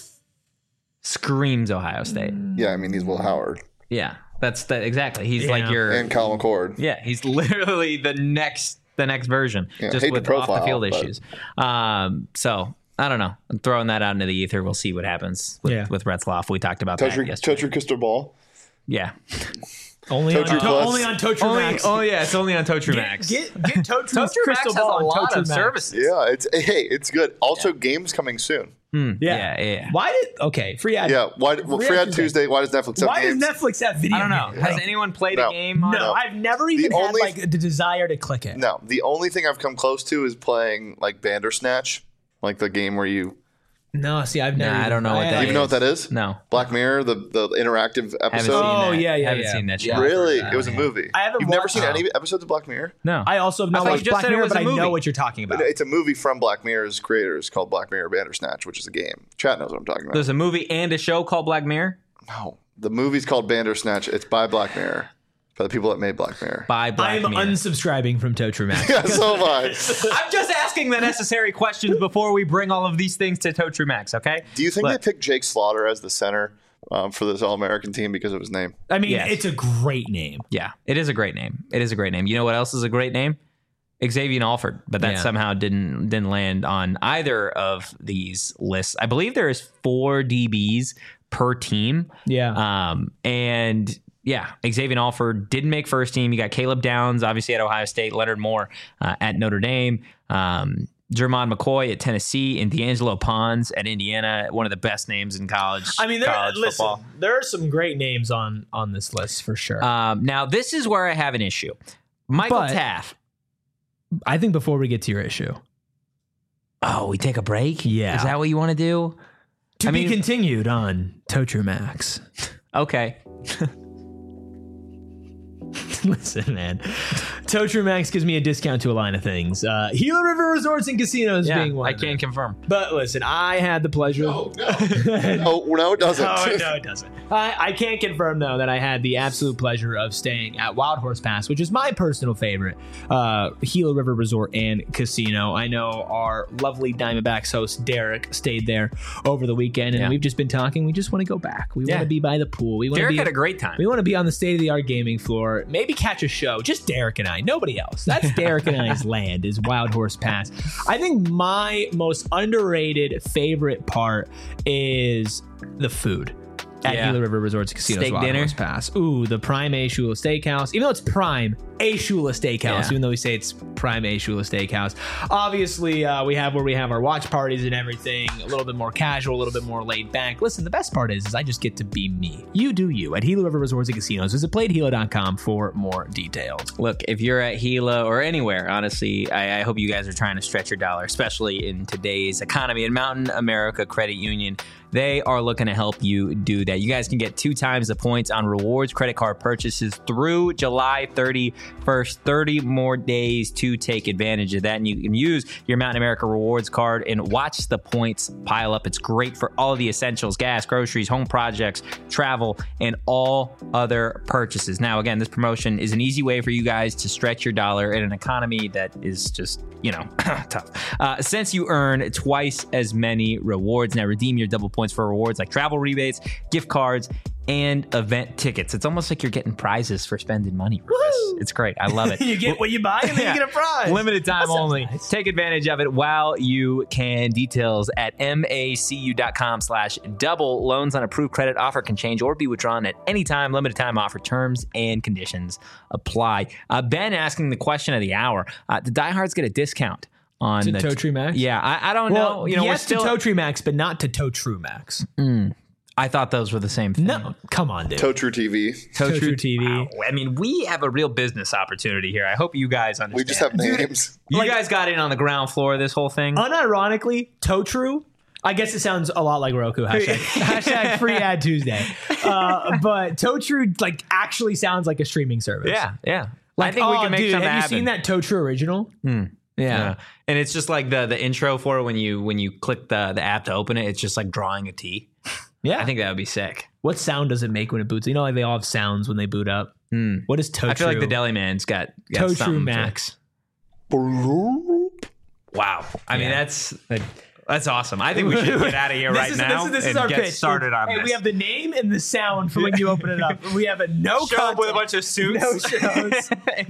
Screams Ohio State. Yeah, I mean he's Will Howard Yeah, that's the exactly. He's Yeah. like your and Kyle McCord. yeah. He's literally the next the next version, Yeah, just hate with to off the profile, field but- issues. Um, so I don't know. I'm throwing that out into the ether. We'll see what happens with, Yeah. with Retzloff. We talked about Touch that your, yesterday. touch your crystal ball. Yeah. only on Totru to- Plus. only on Totru Only, Max. oh yeah, it's only on Totru Get Max. get, get Totru's Totru Max crystal has a ball on lot Totru of Max. services. Yeah, it's hey, it's good. Also, games coming soon. Hmm, Yeah. yeah, yeah. Why did okay free ad? Yeah, why? Well, Free free ad on Tuesday. Why does Netflix have Why games? does Netflix have video? I don't know. games? Has anyone played No. a game on No, it? I've never even had only- like the desire to click it. No, the only thing I've come close to is playing like Bandersnatch, like the game where you. No, see, I've never. Nah, I even- don't know what that Do you even know what that is? No. Black Mirror, the the interactive Haven't episode. seen Oh, that. yeah, yeah, Haven't yeah. seen that shit. Yeah. Really, Uh, it was a yeah. movie. I haven't You've never watched- seen Oh. any episodes of Black Mirror? No. I also have not thought you watched just Black said it Mirror, was but a I know movie. what you're talking about. It's a movie from Black Mirror's creators called Black Mirror Bandersnatch, which is a game. Chat knows what I'm talking about. There's a movie and a show called Black Mirror No, the movie's called Bandersnatch. It's by Black Mirror, by the people that made Black Mirror. by Black I'm Mirror. unsubscribing from Totru Max. Yeah, so am I. I'm just asking the necessary questions before we bring all of these things to Totru Max, okay? Do you think Look. they picked Jake Slaughter as the center um, for this All-American team because of his name? I mean, Yes. it's a great name. Yeah, it is a great name. It is a great name. You know what else is a great name? Xavier Alford, but that Yeah. somehow didn't didn't land on either of these lists. I believe there is four D Bs per team. Yeah. Um, and yeah, Xavier Alford didn't make first team. You got Caleb Downs, obviously at Ohio State, Leonard Moore uh, at Notre Dame, um, Jermon McCoy at Tennessee, and D'Angelo Pons at Indiana. One of the best names in college. I mean, there, college listen, football. there are some great names on on this list for sure. Um, now, this is where I have an issue. Michael But- Taff. I think before we get to your issue, Oh, we take a break? Yeah. Is that what you want to do? to I be mean- continued on Totru Max. Okay. Listen, man. Toe True Max gives me a discount to a line of things. Uh, Gila River Resorts and Casinos Yeah, being one. I of them. can confirm. But listen, I had the pleasure. No, no. oh, no, it doesn't. Oh, no, it doesn't. I, I can confirm, though, that I had the absolute pleasure of staying at Wild Horse Pass, which is my personal favorite uh, Gila River Resort and Casino. I know our lovely Diamondbacks host, Derek, stayed there over the weekend, and Yeah. we've just been talking. We just want to go back. We Yeah. want to be by the pool. We want to Derek be had a great time. We want to be on the state-of-the-art gaming floor, maybe catch a show. Just Derek and I, nobody else. That's Derek and I's land, is Wild Horse Pass. I think my most underrated favorite part is the food at Yeah. Gila River Resorts and Casinos. Steak Wild dinner. Horse Pass. Ooh, the Prime A Shula Steakhouse. Even though it's Prime A Shula Steakhouse, Yeah. even though we say it's Prime A Shula Steakhouse. Obviously, uh, we have where we have our watch parties and everything. A little bit more casual, a little bit more laid back. Listen, the best part is, is I just get to be me. You do you at Gila River Resorts and Casinos. Visit play at gila dot com for more details. Look, if you're at Gila or anywhere, honestly, I, I hope you guys are trying to stretch your dollar, especially in today's economy. And Mountain America Credit Union, they are looking to help you do that. You guys can get two times the points on rewards credit card purchases through July thirty-first. thirty more days to take advantage of that. And you can use your Mountain America Rewards card and watch the points pile up. It's great for all of the essentials, gas, groceries, home projects, travel, and all other purchases. Now, again, this promotion is an easy way for you guys to stretch your dollar in an economy that is just, you know, tough. Uh, since you earn twice as many rewards, now redeem your double points for rewards like travel rebates, gift cards, and event tickets. It's almost like you're getting prizes for spending money. Rufus. It's great. I love it. You get what you buy, and then Yeah. you get a prize. Limited time That sounds only. nice. Take advantage of it while you can. Details at macu.com slash double. Loans on approved credit offer can change or be withdrawn at any time. Limited time offer. Terms and conditions apply. Uh, Ben asking the question of the hour. Uh, the diehards get a discount on To the Toe Tree Max? Yeah, I, I don't Well, know. You know, yes we're still. to Toe Tree Max, but not to Toe True Max. I thought those were the same thing. No, come on, dude. Toe True T V. Toe Toe True True T V. Wow. I mean, we have a real business opportunity here. I hope you guys understand. We just have names. You Like- guys got in on the ground floor of this whole thing. Unironically, Toe True. I guess it sounds a lot like Roku. Hashtag, hashtag free ad Tuesday. Uh, but Toe True like actually sounds like a streaming service. yeah, yeah. Like, I think we oh, can make dude, something have you happen. seen that Toe True original? Yeah. Yeah. And it's just like the the intro for it when you when you click the the app to open it, it's just like drawing a T. Yeah. I think that would be sick. What sound does it make when it boots? You know, like they all have sounds when they boot up. What is Toe I feel True? like the Deli Man's got, got Toe True something to- Max. Wow. I mean, Yeah. that's that's awesome. I think we should get out of here This right is, now This is, this is and our get pitch. started on hey, this. we have the name and the sound for when you open it up. We have a no Show up with a content, bunch of suits. no shows.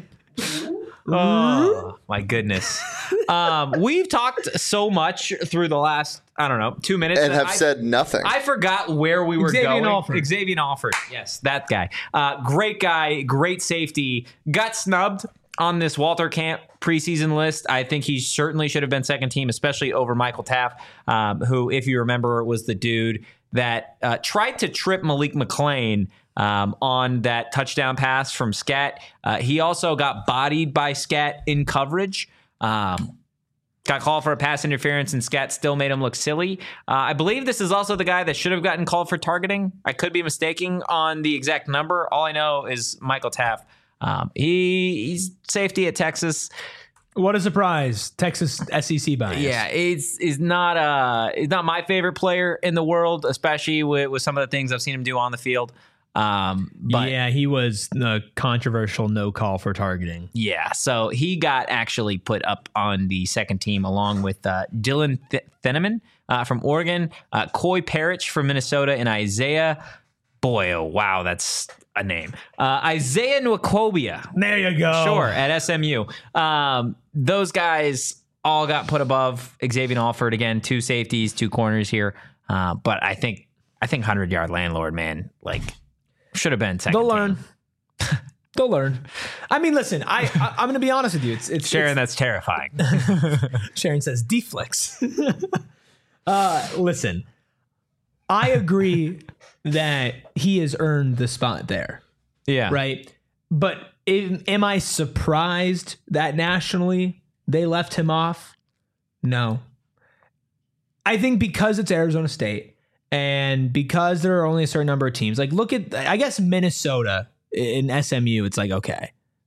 Oh my goodness. Um, we've talked so much through the last, I don't know, two minutes. And that have I- said nothing. I forgot where we were Xavier going. Alford. Xavier Alford. Yes, that guy. Uh, great guy, great safety. Got snubbed on this Walter Camp preseason list. I think he certainly should have been second team, especially over Michael Taft, um, who, if you remember, was the dude that uh, tried to trip Malik McClain um, on that touchdown pass from Scat. Uh, he also got bodied by Scat in coverage. Um, Got called for a pass interference, and Scat still made him look silly. Uh, I believe this is also the guy that should have gotten called for targeting. I could be mistaking on the exact number. All I know is Michael Taft. Um, he he's safety at Texas. What a surprise. Texas S E C bias. Yeah, it's is not uh it's not my favorite player in the world, especially with, with some of the things I've seen him do on the field. Um, but yeah, he was the controversial no call for targeting. Yeah, so he got actually put up on the second team along with uh, Dylan Th- Theneman uh, from Oregon, uh, Coy Parrish from Minnesota, and Isaiah. Boy, oh wow, that's a name. Uh, Isaiah Nwakobia. There you go. Sure, at S M U. Um, those guys all got put above Xavier Alford again. Two safeties, two corners here. Uh, but I think I think hundred yard landlord, man, like should have been second. They'll team. learn. They'll learn. I mean, listen, I, I I'm going to be honest with you. It's it's Sharon, that's terrifying. it's- Sharon says deflex. uh, listen, I agree that he has earned the spot there, Yeah, right? But am, am I surprised that nationally they left him off? No. I think because it's Arizona State and because there are only a certain number of teams, like look at, I guess Minnesota in S M U, it's like, okay,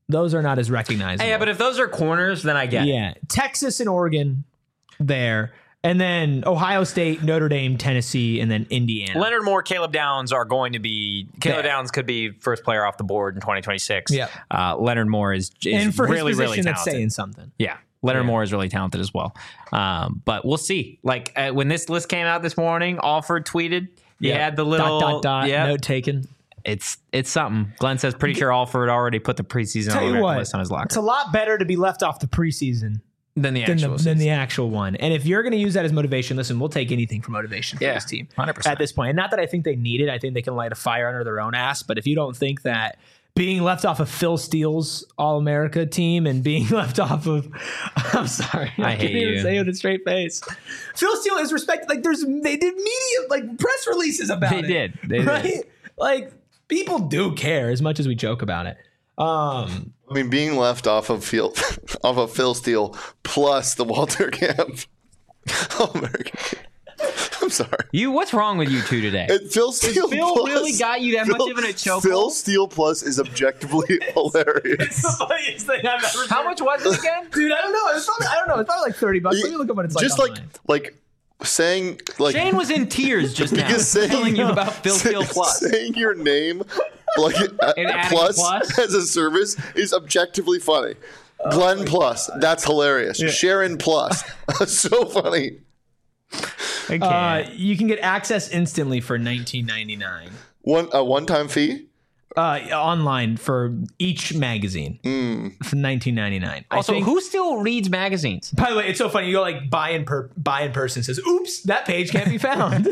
Those are not as recognizable. Yeah, but if those are corners, then I get it. yeah, Texas and Oregon there. And then Ohio State, Notre Dame, Tennessee, and then Indiana. Leonard Moore, Caleb Downs are going to be. Caleb Yeah. Downs could be first player off the board in twenty twenty-six. Yeah. Uh, Leonard Moore is, is and for really, his really position, that's talented. saying something. Yeah. Leonard Yeah. Moore is really talented as well. Um, but we'll see. Like uh, when this list came out this morning, Alford tweeted. He Yeah. had the little dot dot dot yeah. note taken. It's it's something. Glenn says pretty sure Alford already put the preseason Tell you All-American what, list on his locker it's a lot better to be left off the preseason than the than actual the, season. than the actual one. And if you're going to use that as motivation, listen, we'll take anything for motivation for Yeah, this team one hundred percent. at this point. And not that I think they need it. I think they can light a fire under their own ass. But if you don't think that being left off of Phil Steele's All-America team and being left off of, I'm sorry, I, I can't hate even you. say it with a straight face. Phil Steele is respected. Like there's, they did media, like press releases about They it. did. They right? did. Like people do care as much as we joke about it. Um, I mean, being left off of field, off of Phil Steele plus the Walter Camp All-American team. I'm sorry. You, what's wrong with you two today? It, Phil Steele Phil plus, really got you that Phil, much of in a chokehold? Phil Steele plus is objectively hilarious. it's the funniest thing I've ever How much was it again? Dude, I don't know. It's probably I don't know. It's probably like thirty bucks. Let me look up what it's like. Just like online. like saying like Shane was in tears just now because saying, telling you about Phil say- Steele Plus. saying your name like And adding a plus, plus? as a service is objectively funny. Glenn Plus, that's hilarious. Sharon Plus, so funny. I Uh, you can get access instantly for nineteen ninety-nine. One a one time fee. Uh, online for each magazine for nineteen ninety-nine. also, I think, who still reads magazines? by the way, it's so funny. You go like buy in per buy in person says, "Oops, that page can't be found."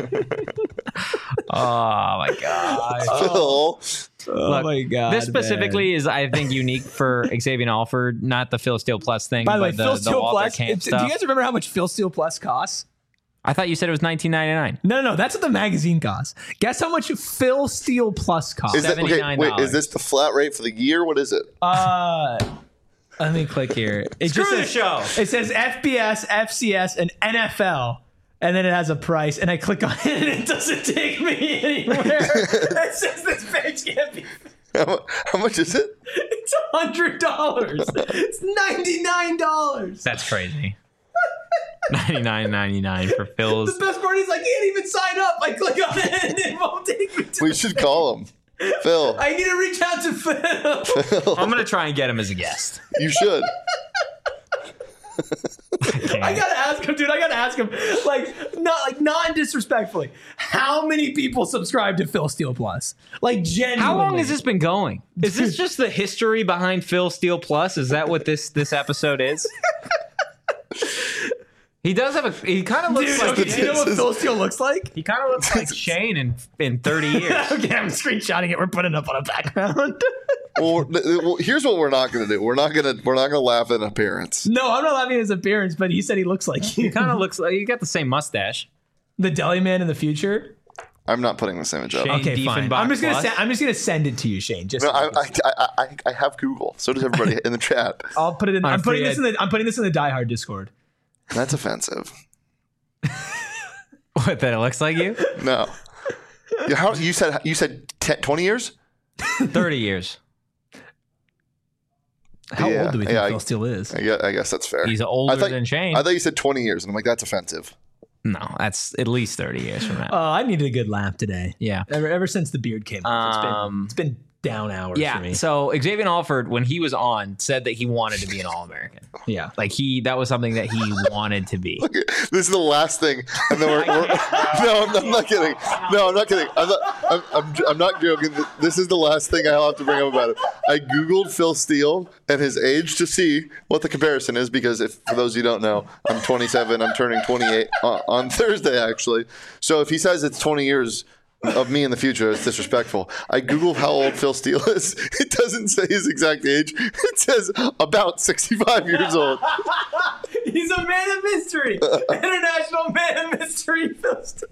Oh my god! Phil, oh Look, my god! This specifically is, I think, unique for Xavier Alford, not the Phil Steele Plus thing, By the way, but the, Phil the Steele Walter Plus. Camp it's- Do stuff. you guys remember how much Phil Steele Plus costs? I thought you said it was nineteen ninety-nine. No, no, no. That's what the magazine costs. Guess how much Phil Steele Plus costs? is that okay? seventy-nine dollars. Wait, is this the flat rate for the year? What is it? Uh, let me click here. It Screw just the says, show. It says F B S, F C S, and N F L, and then it has a price. And I click on it, and it doesn't take me anywhere. It says this page can't be. How, how much is it? It's a hundred dollars. It's ninety nine dollars. That's crazy. ninety-nine ninety-nine for Phil's. The best part is I can't even sign up. I click on it, and it won't take me to. We should call him. Phil, I need to reach out to Phil. I'm gonna try and get him as a guest. you should. I gotta ask him, dude. I gotta ask him, like, not like not disrespectfully. How many people subscribe to Phil Steele Plus? Like, genuinely. How long has this been going? Is this just the history behind Phil Steele Plus? Is that what this this episode is? He does have a. He kind of looks Dude, like. okay, do you know what Phil Steele looks like? He kind of looks like Shane in in thirty years. Okay, I'm screenshotting it. We're putting it up on a background. Well, we're- well, here's what we're not going to do. We're not going to. We're not going to laugh at appearance. No, I'm not laughing at his appearance, but he said he looks like He you. kind of looks like you got the same mustache. The deli man in the future. I'm not putting this image up. Shane Okay, fine. Diefenbach I'm just gonna Plus. send. I'm just gonna send it to you, Shane. Just No, I, I, I, I, I have Google. So does everybody in the chat. I'll put it in. On I'm putting free this in the. I'm putting this in the Die Hard Discord. That's offensive. What, that it looks like you? No. Yeah, How you said? You said ten, twenty years? thirty years. How Yeah, old do we think yeah, I- Phil Steele is? I guess, I guess that's fair. He's older I thought, than Shane. I thought you said twenty years, and I'm like, that's offensive. No, that's at least thirty years from now. Oh, I needed a good laugh today. yeah. Ever, ever since the beard came up, it's been Um, it's been down hours for Yeah. me. So Xavier Alford, when he was on, said that he wanted to be an All-American. Yeah. Like he, that was something that he wanted to be. Okay, this is the last thing, and then we're, we're no, I'm, I'm not kidding. No, I'm not kidding. I'm not. I'm, I'm, I'm not joking. This is the last thing I'll have to bring up about it. I googled Phil Steele and his age to see what the comparison is, because if for those of you who don't know, I'm twenty-seven. I'm turning twenty-eight on, on Thursday actually. So if he says it's twenty years of me in the future, it's disrespectful. I googled how old Phil Steele is. It doesn't say his exact age. It says about sixty-five years old. He's a man of mystery. International man of mystery. Phil Steele.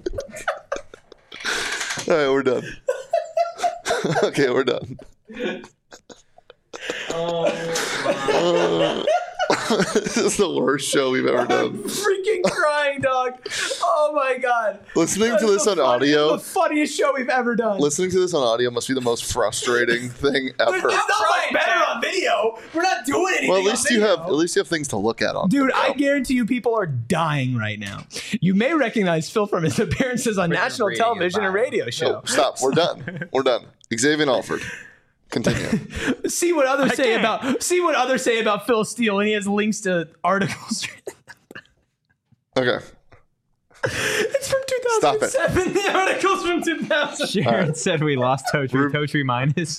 All right, we're done. Okay, we're done. Oh, This is the worst show we've ever I'm done. freaking crying, dog. Oh my god. Listening That to is this the on funny- audio, The funniest show we've ever done. listening to this on audio must be the most frustrating thing ever. It's not much better on video. We're not doing anything. Well, at least on you video. have at least you have things to look at on. Dude, video. I guarantee you people are dying right now. You may recognize Phil from his appearances on From national radio television and bio. radio show. Oh, stop. We're done. We're done. Xavier Alford. Continue. See what others I say can't. about see what others say about Phil Steele, and he has links to articles. Okay. It's from Stop two it. thousand seven. The articles from two thousand. Sharon said we lost Totri. Totri minus.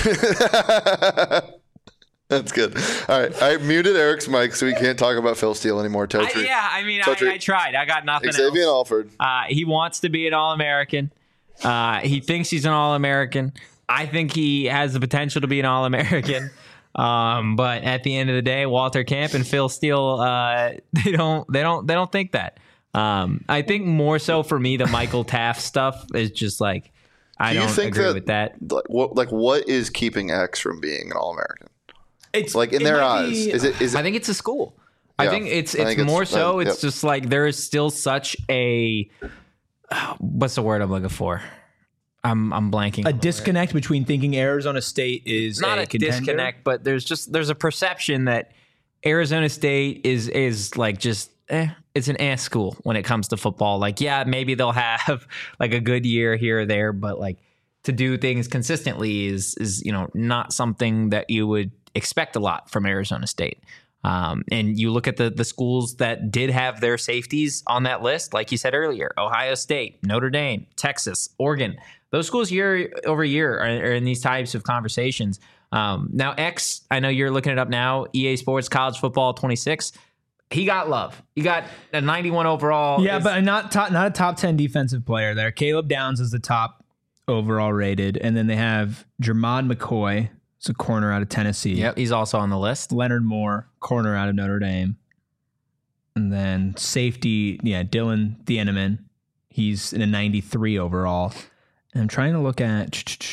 That's good. All right. I muted Eric's mic so we can't talk about Phil Steele anymore. I, Totri. yeah, I mean, Totri. I, I tried. I got nothing Xavier else. Alford. Uh, he wants to be an All-American. Uh, he thinks he's an All-American. I think he has the potential to be an All-American. Um, but at the end of the day, Walter Camp and Phil Steele, uh, they don't, they don't, they don't think that. Um, I think more so for me, the Michael Taft stuff is just like I Do you don't think agree that- with that. Like what? Like what is keeping X from being an All-American? It's Like in it their might eyes, be- is it? Is it? I think it's a school. Yeah, I think it's I it's think it's- more so. uh, It's yep. just like there is still such a uh, what's the word I'm looking for? I'm I'm blanking. a on the word. disconnect between thinking Arizona State is Not a, a contender. disconnect, but there's just there's a perception that Arizona State is is like just eh, it's an ass school when it comes to football. Like yeah, maybe they'll have like a good year here or there, but like to do things consistently is is you know not something that you would expect a lot from Arizona State. Um, and you look at the the schools that did have their safeties on that list, like you said earlier, Ohio State, Notre Dame, Texas, Oregon. Those schools year over year are, are in these types of conversations. Um, now, X, I know you're looking it up now. E A Sports College Football twenty-six. He got love. He got a ninety-one overall. Yeah, It's- but not top, not a top ten defensive player there. Caleb Downs is the top overall rated, and then they have Jermod McCoy, it's a corner out of Tennessee. yep, he's also on the list. Leonard Moore, corner out of Notre Dame, and then safety, yeah, Dylan Thieneman. He's in a ninety-three overall. And I'm trying to look at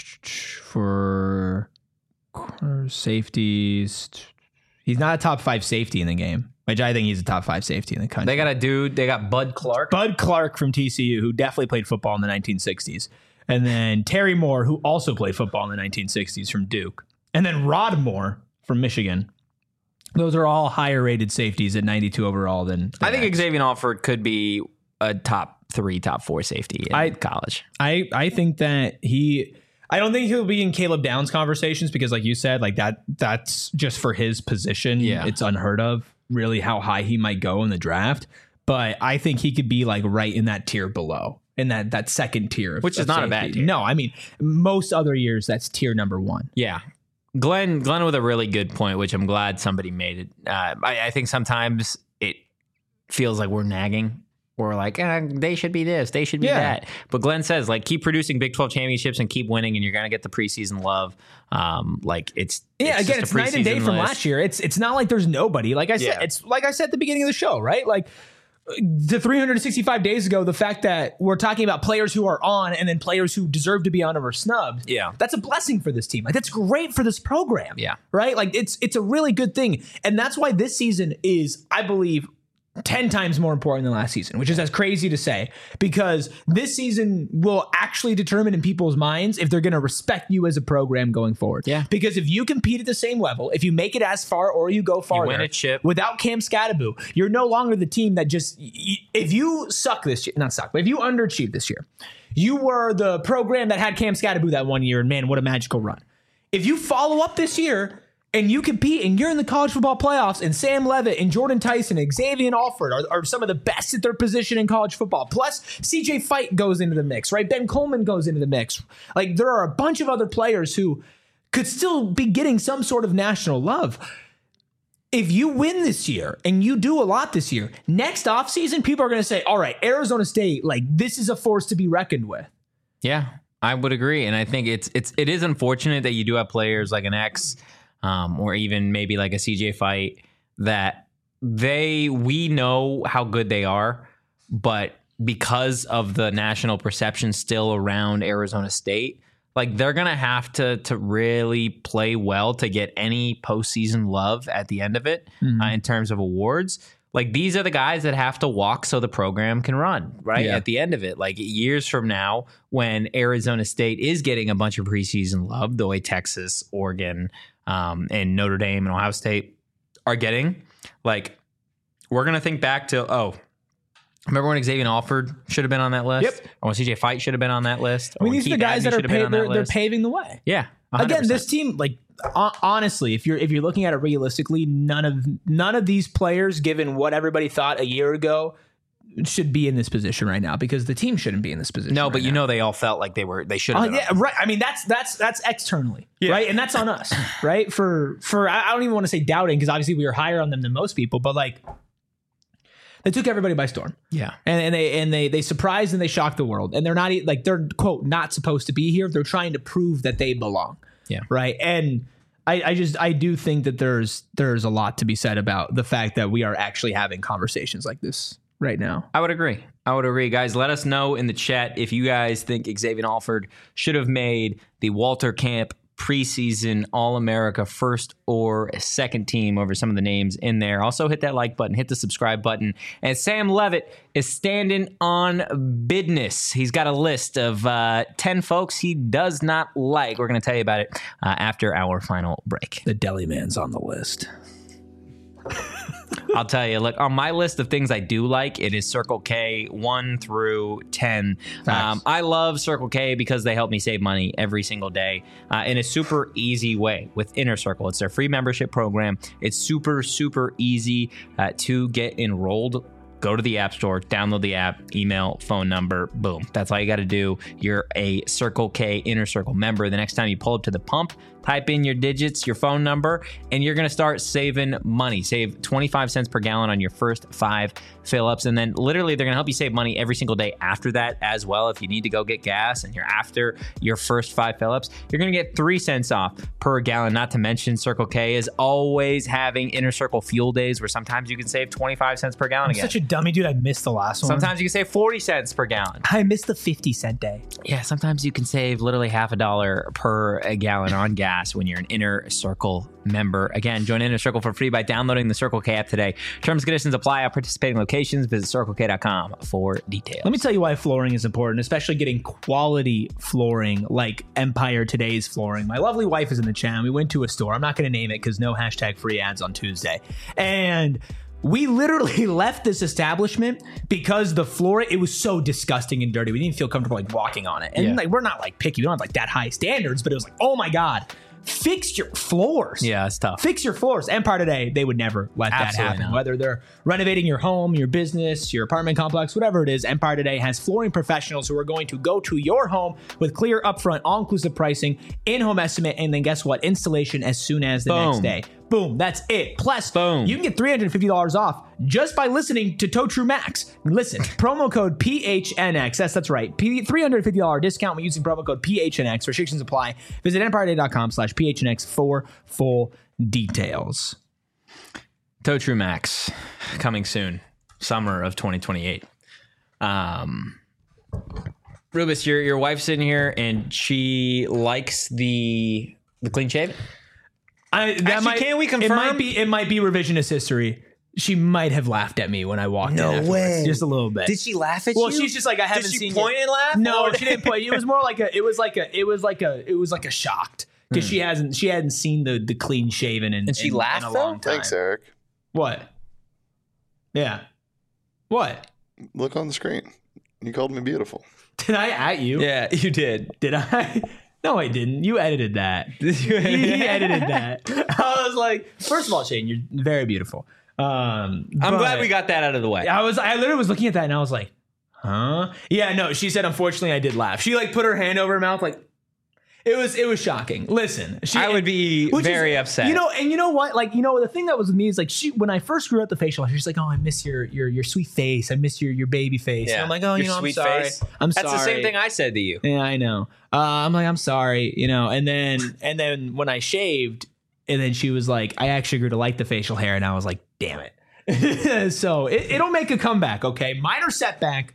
for corner safeties. He's not a top five safety in the game, which I think he's a top five safety in the country. They got a dude. They got Bud Clark. Bud Clark from T C U, who definitely played football in the nineteen sixties. And then Terry Moore, who also played football in the nineteen sixties from Duke. And then Rod Moore from Michigan. Those are all higher rated safeties at ninety-two overall than, than I think X. Xavier Alford could be a top three, top four safety in I- college. I, I think that he I don't think he'll be in Caleb Downs conversations because like you said, like that that's just for his position. Yeah. It's unheard of really how high he might go in the draft. But I think he could be like right in that tier below. In that that second tier. Of, Which is of not a safety. bad tier. No, I mean most other years that's tier number one. Yeah. Glenn, Glenn with a really good point, which I'm glad somebody made it. Uh, I, I think sometimes it feels like we're nagging. We're like, eh, they should be this, they should be Yeah. that. But Glenn says, like, keep producing Big twelve championships and keep winning, and you're going to get the preseason love. Um, like it's Yeah, it's again, just it's a night and day preseason from list. last year. It's it's not like there's nobody. Like I said, Yeah. it's like I said at the beginning of the show, right? Like the three hundred sixty-five days ago, the fact that we're talking about players who are on and then players who deserve to be on or snubbed. Yeah. That's a blessing for this team. Like that's great for this program. Yeah. Right? Like it's it's a really good thing. And that's why this season is, I believe, ten times more important than last season, which is as crazy to say, because this season will actually determine in people's minds if they're going to respect you as a program going forward. Yeah. Because if you compete at the same level, if you make it as far or you go farther, win a chip. without Cam Scattaboo, you're no longer the team that just, y- if you suck this year, not suck, but if you underachieve this year, you were the program that had Cam Scattaboo that one year, and man, what a magical run. If you follow up this year, and you compete and you're in the college football playoffs and Sam Levitt and Jordan Tyson and Xavier Alford are, are some of the best at their position in college football. Plus C J Fight goes into the mix, right? Ben Coleman goes into the mix. Like there are a bunch of other players who could still be getting some sort of national love. If you win this year and you do a lot this year, next offseason, people are going to say, all right, Arizona State, like this is a force to be reckoned with. Yeah, I would agree. And I think it's it's it is unfortunate that you do have players like an X um, or even maybe like a C J Fight that they we know how good they are, but because of the national perception still around Arizona State, Like they're gonna have to to really play well to get any postseason love at the end of it Mm-hmm. uh, in terms of awards. Like these are the guys that have to walk so the program can run, right? Yeah. At the end of it, like years from now, when Arizona State is getting a bunch of preseason love, the way Texas, Oregon, um, and Notre Dame and Ohio State are getting, like we're gonna think back to oh. Remember when Xavier Alford should have been on that list? Yep. Or when C J Fight should have been on that list? I mean, Or when these are the Keith guys Abney that are should have been pa- on that they're, they're list? paving the way. Yeah. one hundred Again, percent. this team, like ho- honestly, if you're if you're looking at it realistically, none of none of these players, given what everybody thought a year ago, should be in this position right now because the team shouldn't be in this position. No, right but you now. know they all felt like they were they should have Uh, been. yeah, right. I mean, that's that's that's externally, right, and that's on us, right? For for I I don't even want to say doubting because obviously we were higher on them than most people, but like they took everybody by storm, Yeah. and and they and they they surprised and they shocked the world, and they're not e- like they're quote not supposed to be here. They're trying to prove that they belong, Yeah. right, and. I, I just I do think that there's there's a lot to be said about the fact that we are actually having conversations like this right now. I would agree. I would agree. Guys, let us know in the chat if you guys think Xavier Alford should have made the Walter Camp preseason All-America first or second team over some of the names in there. Also hit that like button, hit the subscribe button. And Sam Levitt is standing on business. He's got a list of uh, ten folks he does not like. We're going to tell you about it uh, after our final break. The deli man's on the list. I'll tell you, look, on my list of things I do like, it is Circle K one through ten. Um, I love Circle K because they help me save money every single day uh, in a super easy way with Inner Circle. It's their free membership program. It's super, super easy uh, to get enrolled. Go to the App Store, download the app, email, phone number, boom. That's all you got to do. You're a Circle K Inner Circle member. The next time you pull up to the pump, type in your digits, your phone number, and you're going to start saving money. Save twenty-five cents per gallon on your first five fill-ups. And then literally they're going to help you save money every single day after that as well. If you need to go get gas and you're after your first five fill-ups, you're going to get three cents off per gallon. Not to mention Circle K is always having Inner Circle fuel days where sometimes you can save twenty-five cents per gallon I'm again. such a dummy, dude. I missed the last one. Sometimes you can save forty cents per gallon. I missed the fifty cent day. Yeah, sometimes you can save literally half a dollar per a gallon on gas when you're an Inner Circle member. Again, join Inner Circle for free by downloading the Circle K app today. Terms and conditions apply at participating locations. Visit circle k dot com for details. Let me tell you why flooring is important, especially getting quality flooring like Empire Today's flooring. My lovely wife is in the chat. We went to a store. I'm not going to name it because no hashtag free ads on Tuesday. And we literally left this establishment because the floor, it was so disgusting and dirty. We didn't feel comfortable like walking on it. And Yeah. like we're not like picky. We don't have like that high standards, but it was like, oh my God, fix your floors. Yeah, it's tough. Fix your floors. Empire Today, they would never let that Absolutely happen. not. Whether they're renovating your home, your business, your apartment complex, whatever it is, Empire Today has flooring professionals who are going to go to your home with clear, upfront, all-inclusive pricing, in-home estimate, and then guess what? Installation as soon as the Boom. next day. Boom. That's it. Plus, Boom. you can get three hundred fifty dollars off just by listening to Toe True Max. Listen, promo code P H N X. Yes, that's right. P- three hundred fifty dollars discount when using promo code P H N X. Restrictions apply. Visit empire day dot com slash P H N X for full details. Toe True Max coming soon, summer of twenty twenty-eight. Um, Rubus, your your wife's sitting here and she likes the the clean shaven. I, that Actually, might, can we It might confirm? be. It might be revisionist history. She might have laughed at me when I walked No in. afterwards. way. Just a little bit. she laugh at well, she's just like, I haven't Did she seen point you. and laugh? No, Or- she didn't point. It was more like a. It was like a. It was like a. It was like a shocked because she hasn't. She hadn't seen the the clean shaven in. And she in, laughed, in a though? long time. Thanks, Eric. What? Yeah. What? Look on the screen. You called me beautiful. Did I at you? Yeah, you did. Did I? No, I didn't. You edited that. he edited that. I was like, first of all, Shane, you're very beautiful. Um, I'm but- glad we got that out of the way. I was, I literally was looking at that and I was like, huh? Yeah, no, she said, unfortunately, I did laugh. She like put her hand over her mouth, like, it was, it was shocking. Listen, she, I would be which very is- upset. You know, and you know what? Like, you know, the thing that was with me is like, she, when I first grew out the facial, she's like, oh, I miss your, your, your sweet face. I miss your, your baby face. And I'm like, oh, Your you know, I'm sweet sorry. face. I'm That's sorry. the same thing I said to you. Yeah, I know. Uh, I'm like, I'm sorry, you know, and then, and then when I shaved, and then she was like, I actually grew to like the facial hair, and I was like, damn it. So it, it'll make a comeback, okay? Minor setback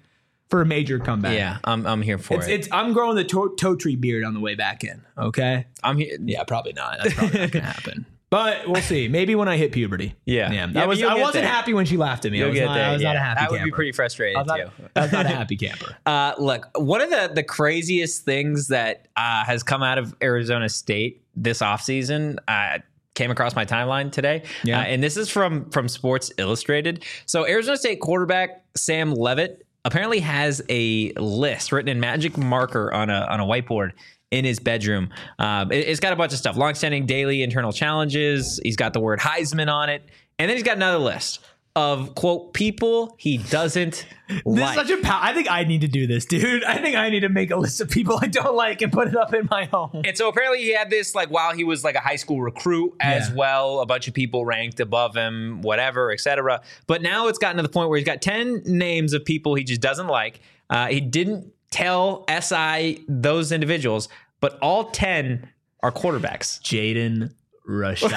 for a major comeback. Yeah, I'm I'm here for It's, it. it's I'm growing the toe, toe tree beard on the way back in. Okay. I'm here. Yeah, probably not. That's probably not gonna happen. But we'll see. Maybe when I hit puberty. Yeah. yeah. Yeah, I but was you'll I get wasn't there. happy when she laughed at me. I You'll was, get not, there. I was not a yeah. happy That camper. would be pretty frustrating I was not, too. I was not a happy camper. Uh, look, one of the, the craziest things that uh, has come out of Arizona State this offseason uh, came across my timeline today. Yeah. Uh, and this is from, from Sports Illustrated. So Arizona State quarterback Sam Leavitt apparently has a list written in magic marker on a on a whiteboard in his bedroom. Um, it, it's got a bunch of stuff, longstanding daily internal challenges. He's got the word Heisman on it. And then he's got another list of, quote, people he doesn't This like. is such a pow- I think I need to do this, dude. I think I need to make a list of people I don't like and put it up in my home. And so apparently he had this like while he was like a high school recruit as Yeah. well. A bunch of people ranked above him, whatever, et cetera. But now it's gotten to the point where he's got ten names of people he just doesn't like. Uh, he didn't tell S I those individuals, but all ten are quarterbacks. Jaden Rashada.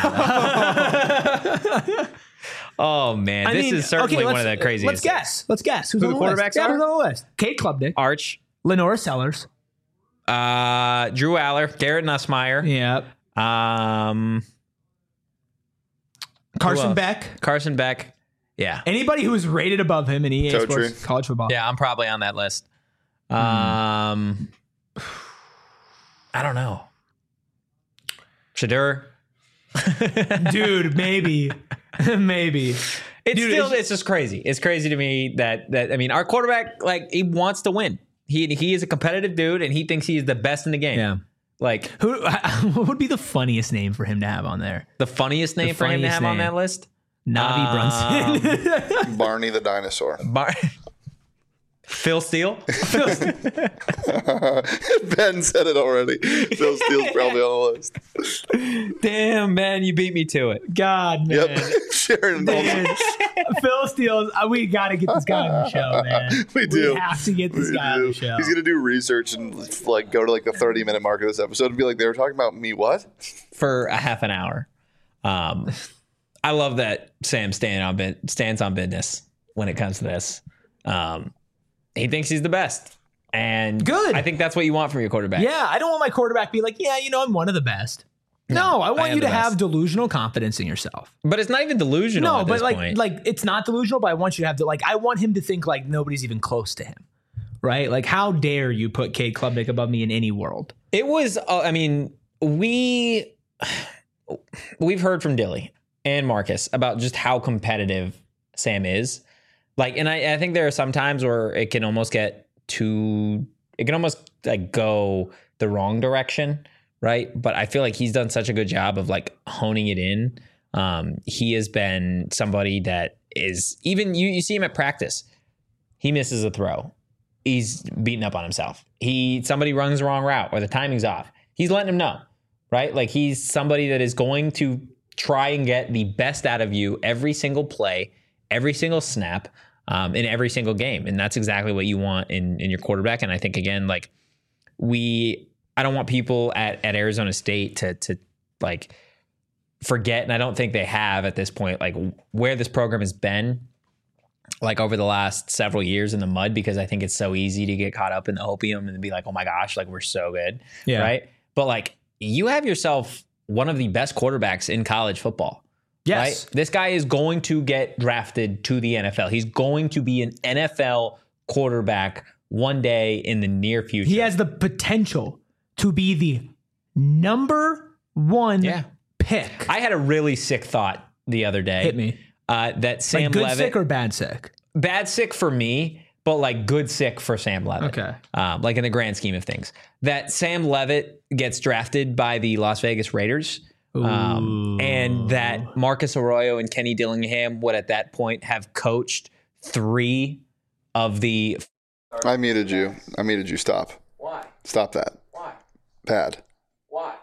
Oh, man. I this mean, is certainly okay, one of let's- the craziest. Let's guess. Let's guess. Who's Who on the the quarterbacks list? Yeah, are? who's on the list? Kate Klubnik, Arch, Lenora Sellers. uh, Drew Aller, Garrett Nussmeier, Yep. um, Carson else? Beck. Carson Beck. Yeah. Anybody who is rated above him in E A Toe Sports tree. college football. Yeah, I'm probably on that list. Hmm. Um, I don't know. Shadur. Dude, maybe. maybe. It's Dude, still it's- it's just crazy. It's crazy to me that that I mean our quarterback, like, he wants to win. He he is a competitive dude and he thinks he is the best in the game. Yeah. Like Who what would be the funniest name for him to have on there? the funniest name for him to funniest have on name. that list. Navi Um, Brunson. Barney the dinosaur. Bar- Phil Steele. Ben said it already. Phil Steele's probably on the list. Damn, man, you beat me to it. God, man. Yep. Sharon. Dude, Phil Steele, uh, we got to get this guy on the show, man. We do. We have to get this We guy do. on the show. He's gonna do research and like go to like the thirty minute mark of this episode and be like, they were talking about me. What? For a half an hour. Um, I love that Sam stand on bit, stands on business when it comes to this. Um, he thinks he's the best, and Good. I think that's what you want from your quarterback. Yeah, I don't want my quarterback to be like, yeah, you know, I'm one of the best. No, I I want am you to the have best. delusional confidence in yourself. But it's not even delusional. No, at but this like, point. like it's not delusional. But I want you to have to like, I want him to think like nobody's even close to him, right? Like, how dare you put Cade Klubnik above me in any world? it was. Uh, I mean, we we've heard from Dilly and Marcus about just how competitive Sam is. Like, and I, I think there are some times where it can almost get too. It can almost like go the wrong direction. Right. But I feel like he's done such a good job of like honing it in. Um, he has been somebody that is even you, you see him at practice. He misses a throw. He's beating up on himself. He somebody runs the wrong route or the timing's off. He's letting him know. Right. Like he's somebody that is going to try and get the best out of you every single play, every single snap, um, in every single game. And that's exactly what you want in, in your quarterback. And I think, again, like we. I don't want people at, at Arizona State to to like forget, and I don't think they have at this point, like where this program has been like over the last several years in the mud, because I think it's so easy to get caught up in the opium and be like, oh my gosh, like we're so good. Yeah. Right. But like you have yourself one of the best quarterbacks in college football. Yes. Right? This guy is going to get drafted to the N F L. He's going to be an N F L quarterback one day in the near future. He has the potential to be the number one Yeah. pick. I had a really sick thought the other day. Hit me. Uh, that Sam Like good Leavitt, sick or bad sick? bad sick for me, but like good sick for Sam Leavitt. Okay. Um, like in the grand scheme of things, that Sam Leavitt gets drafted by the Las Vegas Raiders. Um, and that Marcus Arroyo and Kenny Dillingham would at that point have coached three of the. I muted you. I muted you. Stop. Why? Stop that. Why? Bad. Why?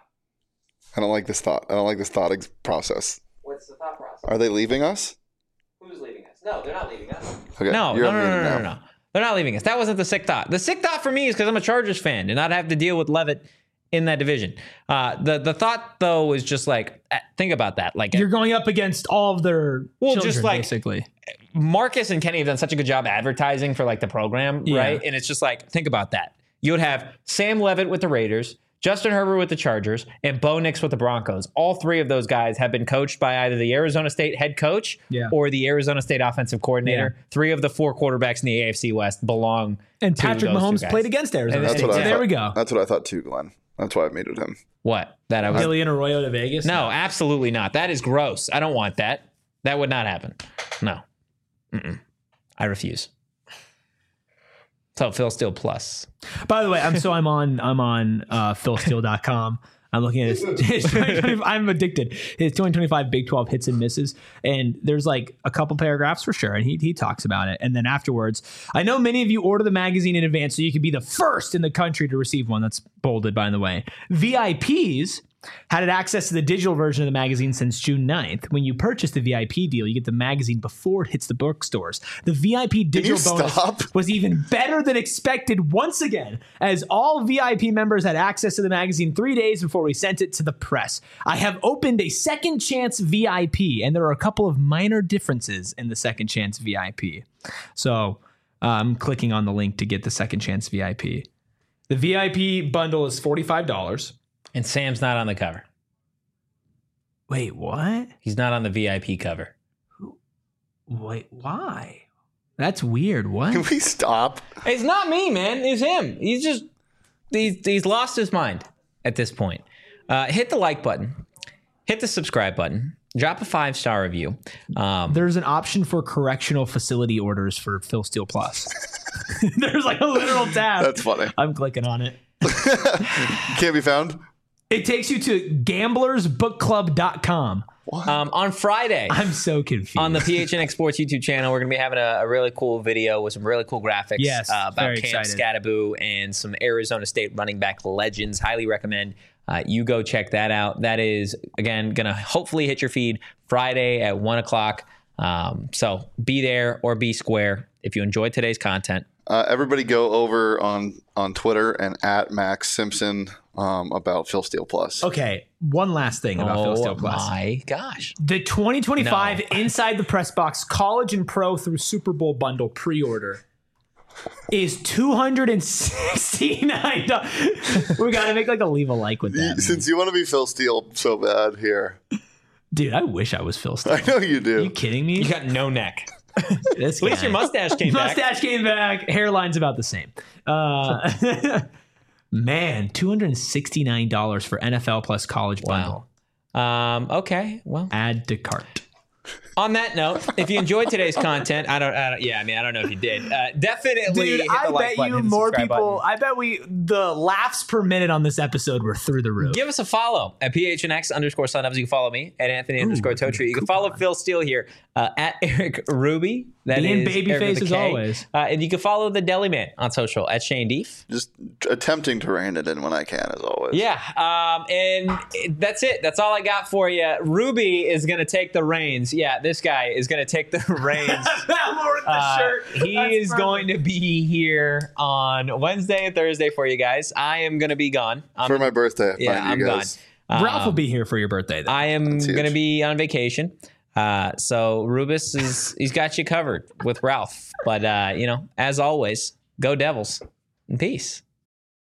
I don't like this thought. I don't like this thought ex- process. What's the thought process? Are they leaving us? Who's leaving us? No, they're not leaving us. Okay. No, you're no, no, no, unmuted no, no, now. no. They're not leaving us. That wasn't the sick thought. The sick thought for me is because I'm a Chargers fan and I'd have to deal with Leavitt in that division. Uh, the the thought though is just like, uh, think about that. Like, You're going up against all of their Well, children, just like- basically. Marcus and Kenny have done such a good job advertising for like the program, Yeah. right? And it's just like, think about that. You would have Sam Levitt with the Raiders, Justin Herbert with the Chargers, and Bo Nix with the Broncos. All three of those guys have been coached by either the Arizona State head coach Yeah. or the Arizona State offensive coordinator. Yeah. Three of the four quarterbacks in the A F C West belong And to Patrick those two Mahomes guys. played against Arizona And State. That's what So I there thought. we go. That's what I thought too, Glenn. That's why I muted him. What? That I was Gillian Arroyo to Vegas? No, absolutely not. That is gross. I don't want that. That would not happen. No. Mm-mm. I refuse. So Phil Steele plus. By the way, I'm so I'm on I'm on uh, phil steele dot com. I'm looking at his, his twenty twenty-five, I'm addicted. His twenty twenty-five Big twelve hits and misses. And there's like a couple paragraphs for sure. And he, he talks about it. And then afterwards, I know many of you order the magazine in advance so you can be the first in the country to receive one. That's bolded, by the way. V I Ps had access to the digital version of the magazine since June ninth. When you purchase the V I P deal, you get the magazine before it hits the bookstores. The V I P digital you bonus stop? was even better than expected once again, as all V I P members had access to the magazine three days before we sent it to the press. I have opened a Second Chance V I P, and there are a couple of minor differences in the Second Chance V I P. So uh, I'm clicking on the link to get the Second Chance V I P. The V I P bundle is forty-five dollars. And Sam's not on the cover. Wait, what? He's not on the V I P cover. Wait, why? That's weird. What? Can we stop? It's not me, man. It's him. He's just he's he's lost his mind at this point. Uh, hit the like button. Hit the subscribe button. Drop a five star review. Um, There's an option for correctional facility orders for Phil Steele Plus. There's like a literal tab. That's funny. I'm clicking on it. Can't be found. It takes you to gamblers book club dot com. um, on Friday. I'm so confused. On the P H N X Sports YouTube channel, we're going to be having a, a really cool video with some really cool graphics Yes, uh, about very Cam excited. Scattaboo and some Arizona State running back legends. Highly recommend uh, you go check that out. That is, again, going to hopefully hit your feed Friday at one o'clock. Um, so be there or be square if you enjoyed today's content. Uh, everybody go over on on Twitter and at Max Simpson um, about Phil Steele Plus. Okay, one last thing about Phil Oh Steele Plus. my gosh. The twenty twenty-five No. Inside the Press Box College and Pro through Super Bowl bundle pre-order is two hundred sixty-nine dollars. We got to make like a leave a like with that. man. Since you want to be Phil Steele so bad here, Dude, I wish I was Phil Steele. I know you do. Are you kidding me? You got no neck. This At least guy. your mustache came back. Mustache came back. Hairline's about the same. Uh, man, two hundred sixty-nine dollars for N F L plus college bundle. Wow. Um, okay. Well, Add to cart. on that note, if you enjoyed today's content, I don't, I don't yeah, I mean, I don't know if you did. Uh, definitely Dude, hit the I like bet button, you hit the more subscribe people, button. I bet we, the laughs per minute on this episode were through the roof. Give us a follow at P H N X underscore Sun Ups. You can follow me at Anthony underscore Totri. You can follow Phil Steele here uh, at Eric Ruby. That Being is babyface Eric with a as K. always. Uh, and you can follow the Deli Man on social at Shane Deef. Just attempting to rein it in when I can, as always. Yeah, um, and it- that's it. That's all I got for you. Ruby is going to take the reins. Yeah, this guy is going to take the reins. Uh, he is going to be here on Wednesday and Thursday for you guys. I am going to be gone. I'm, For my birthday. yeah, mind I'm you gone. guys. Ralph will be here for your birthday, though. I am That's huge. going to be on vacation. Uh, so Rubus is he's got you covered with Ralph. But uh, you know, as always, go Devils and peace.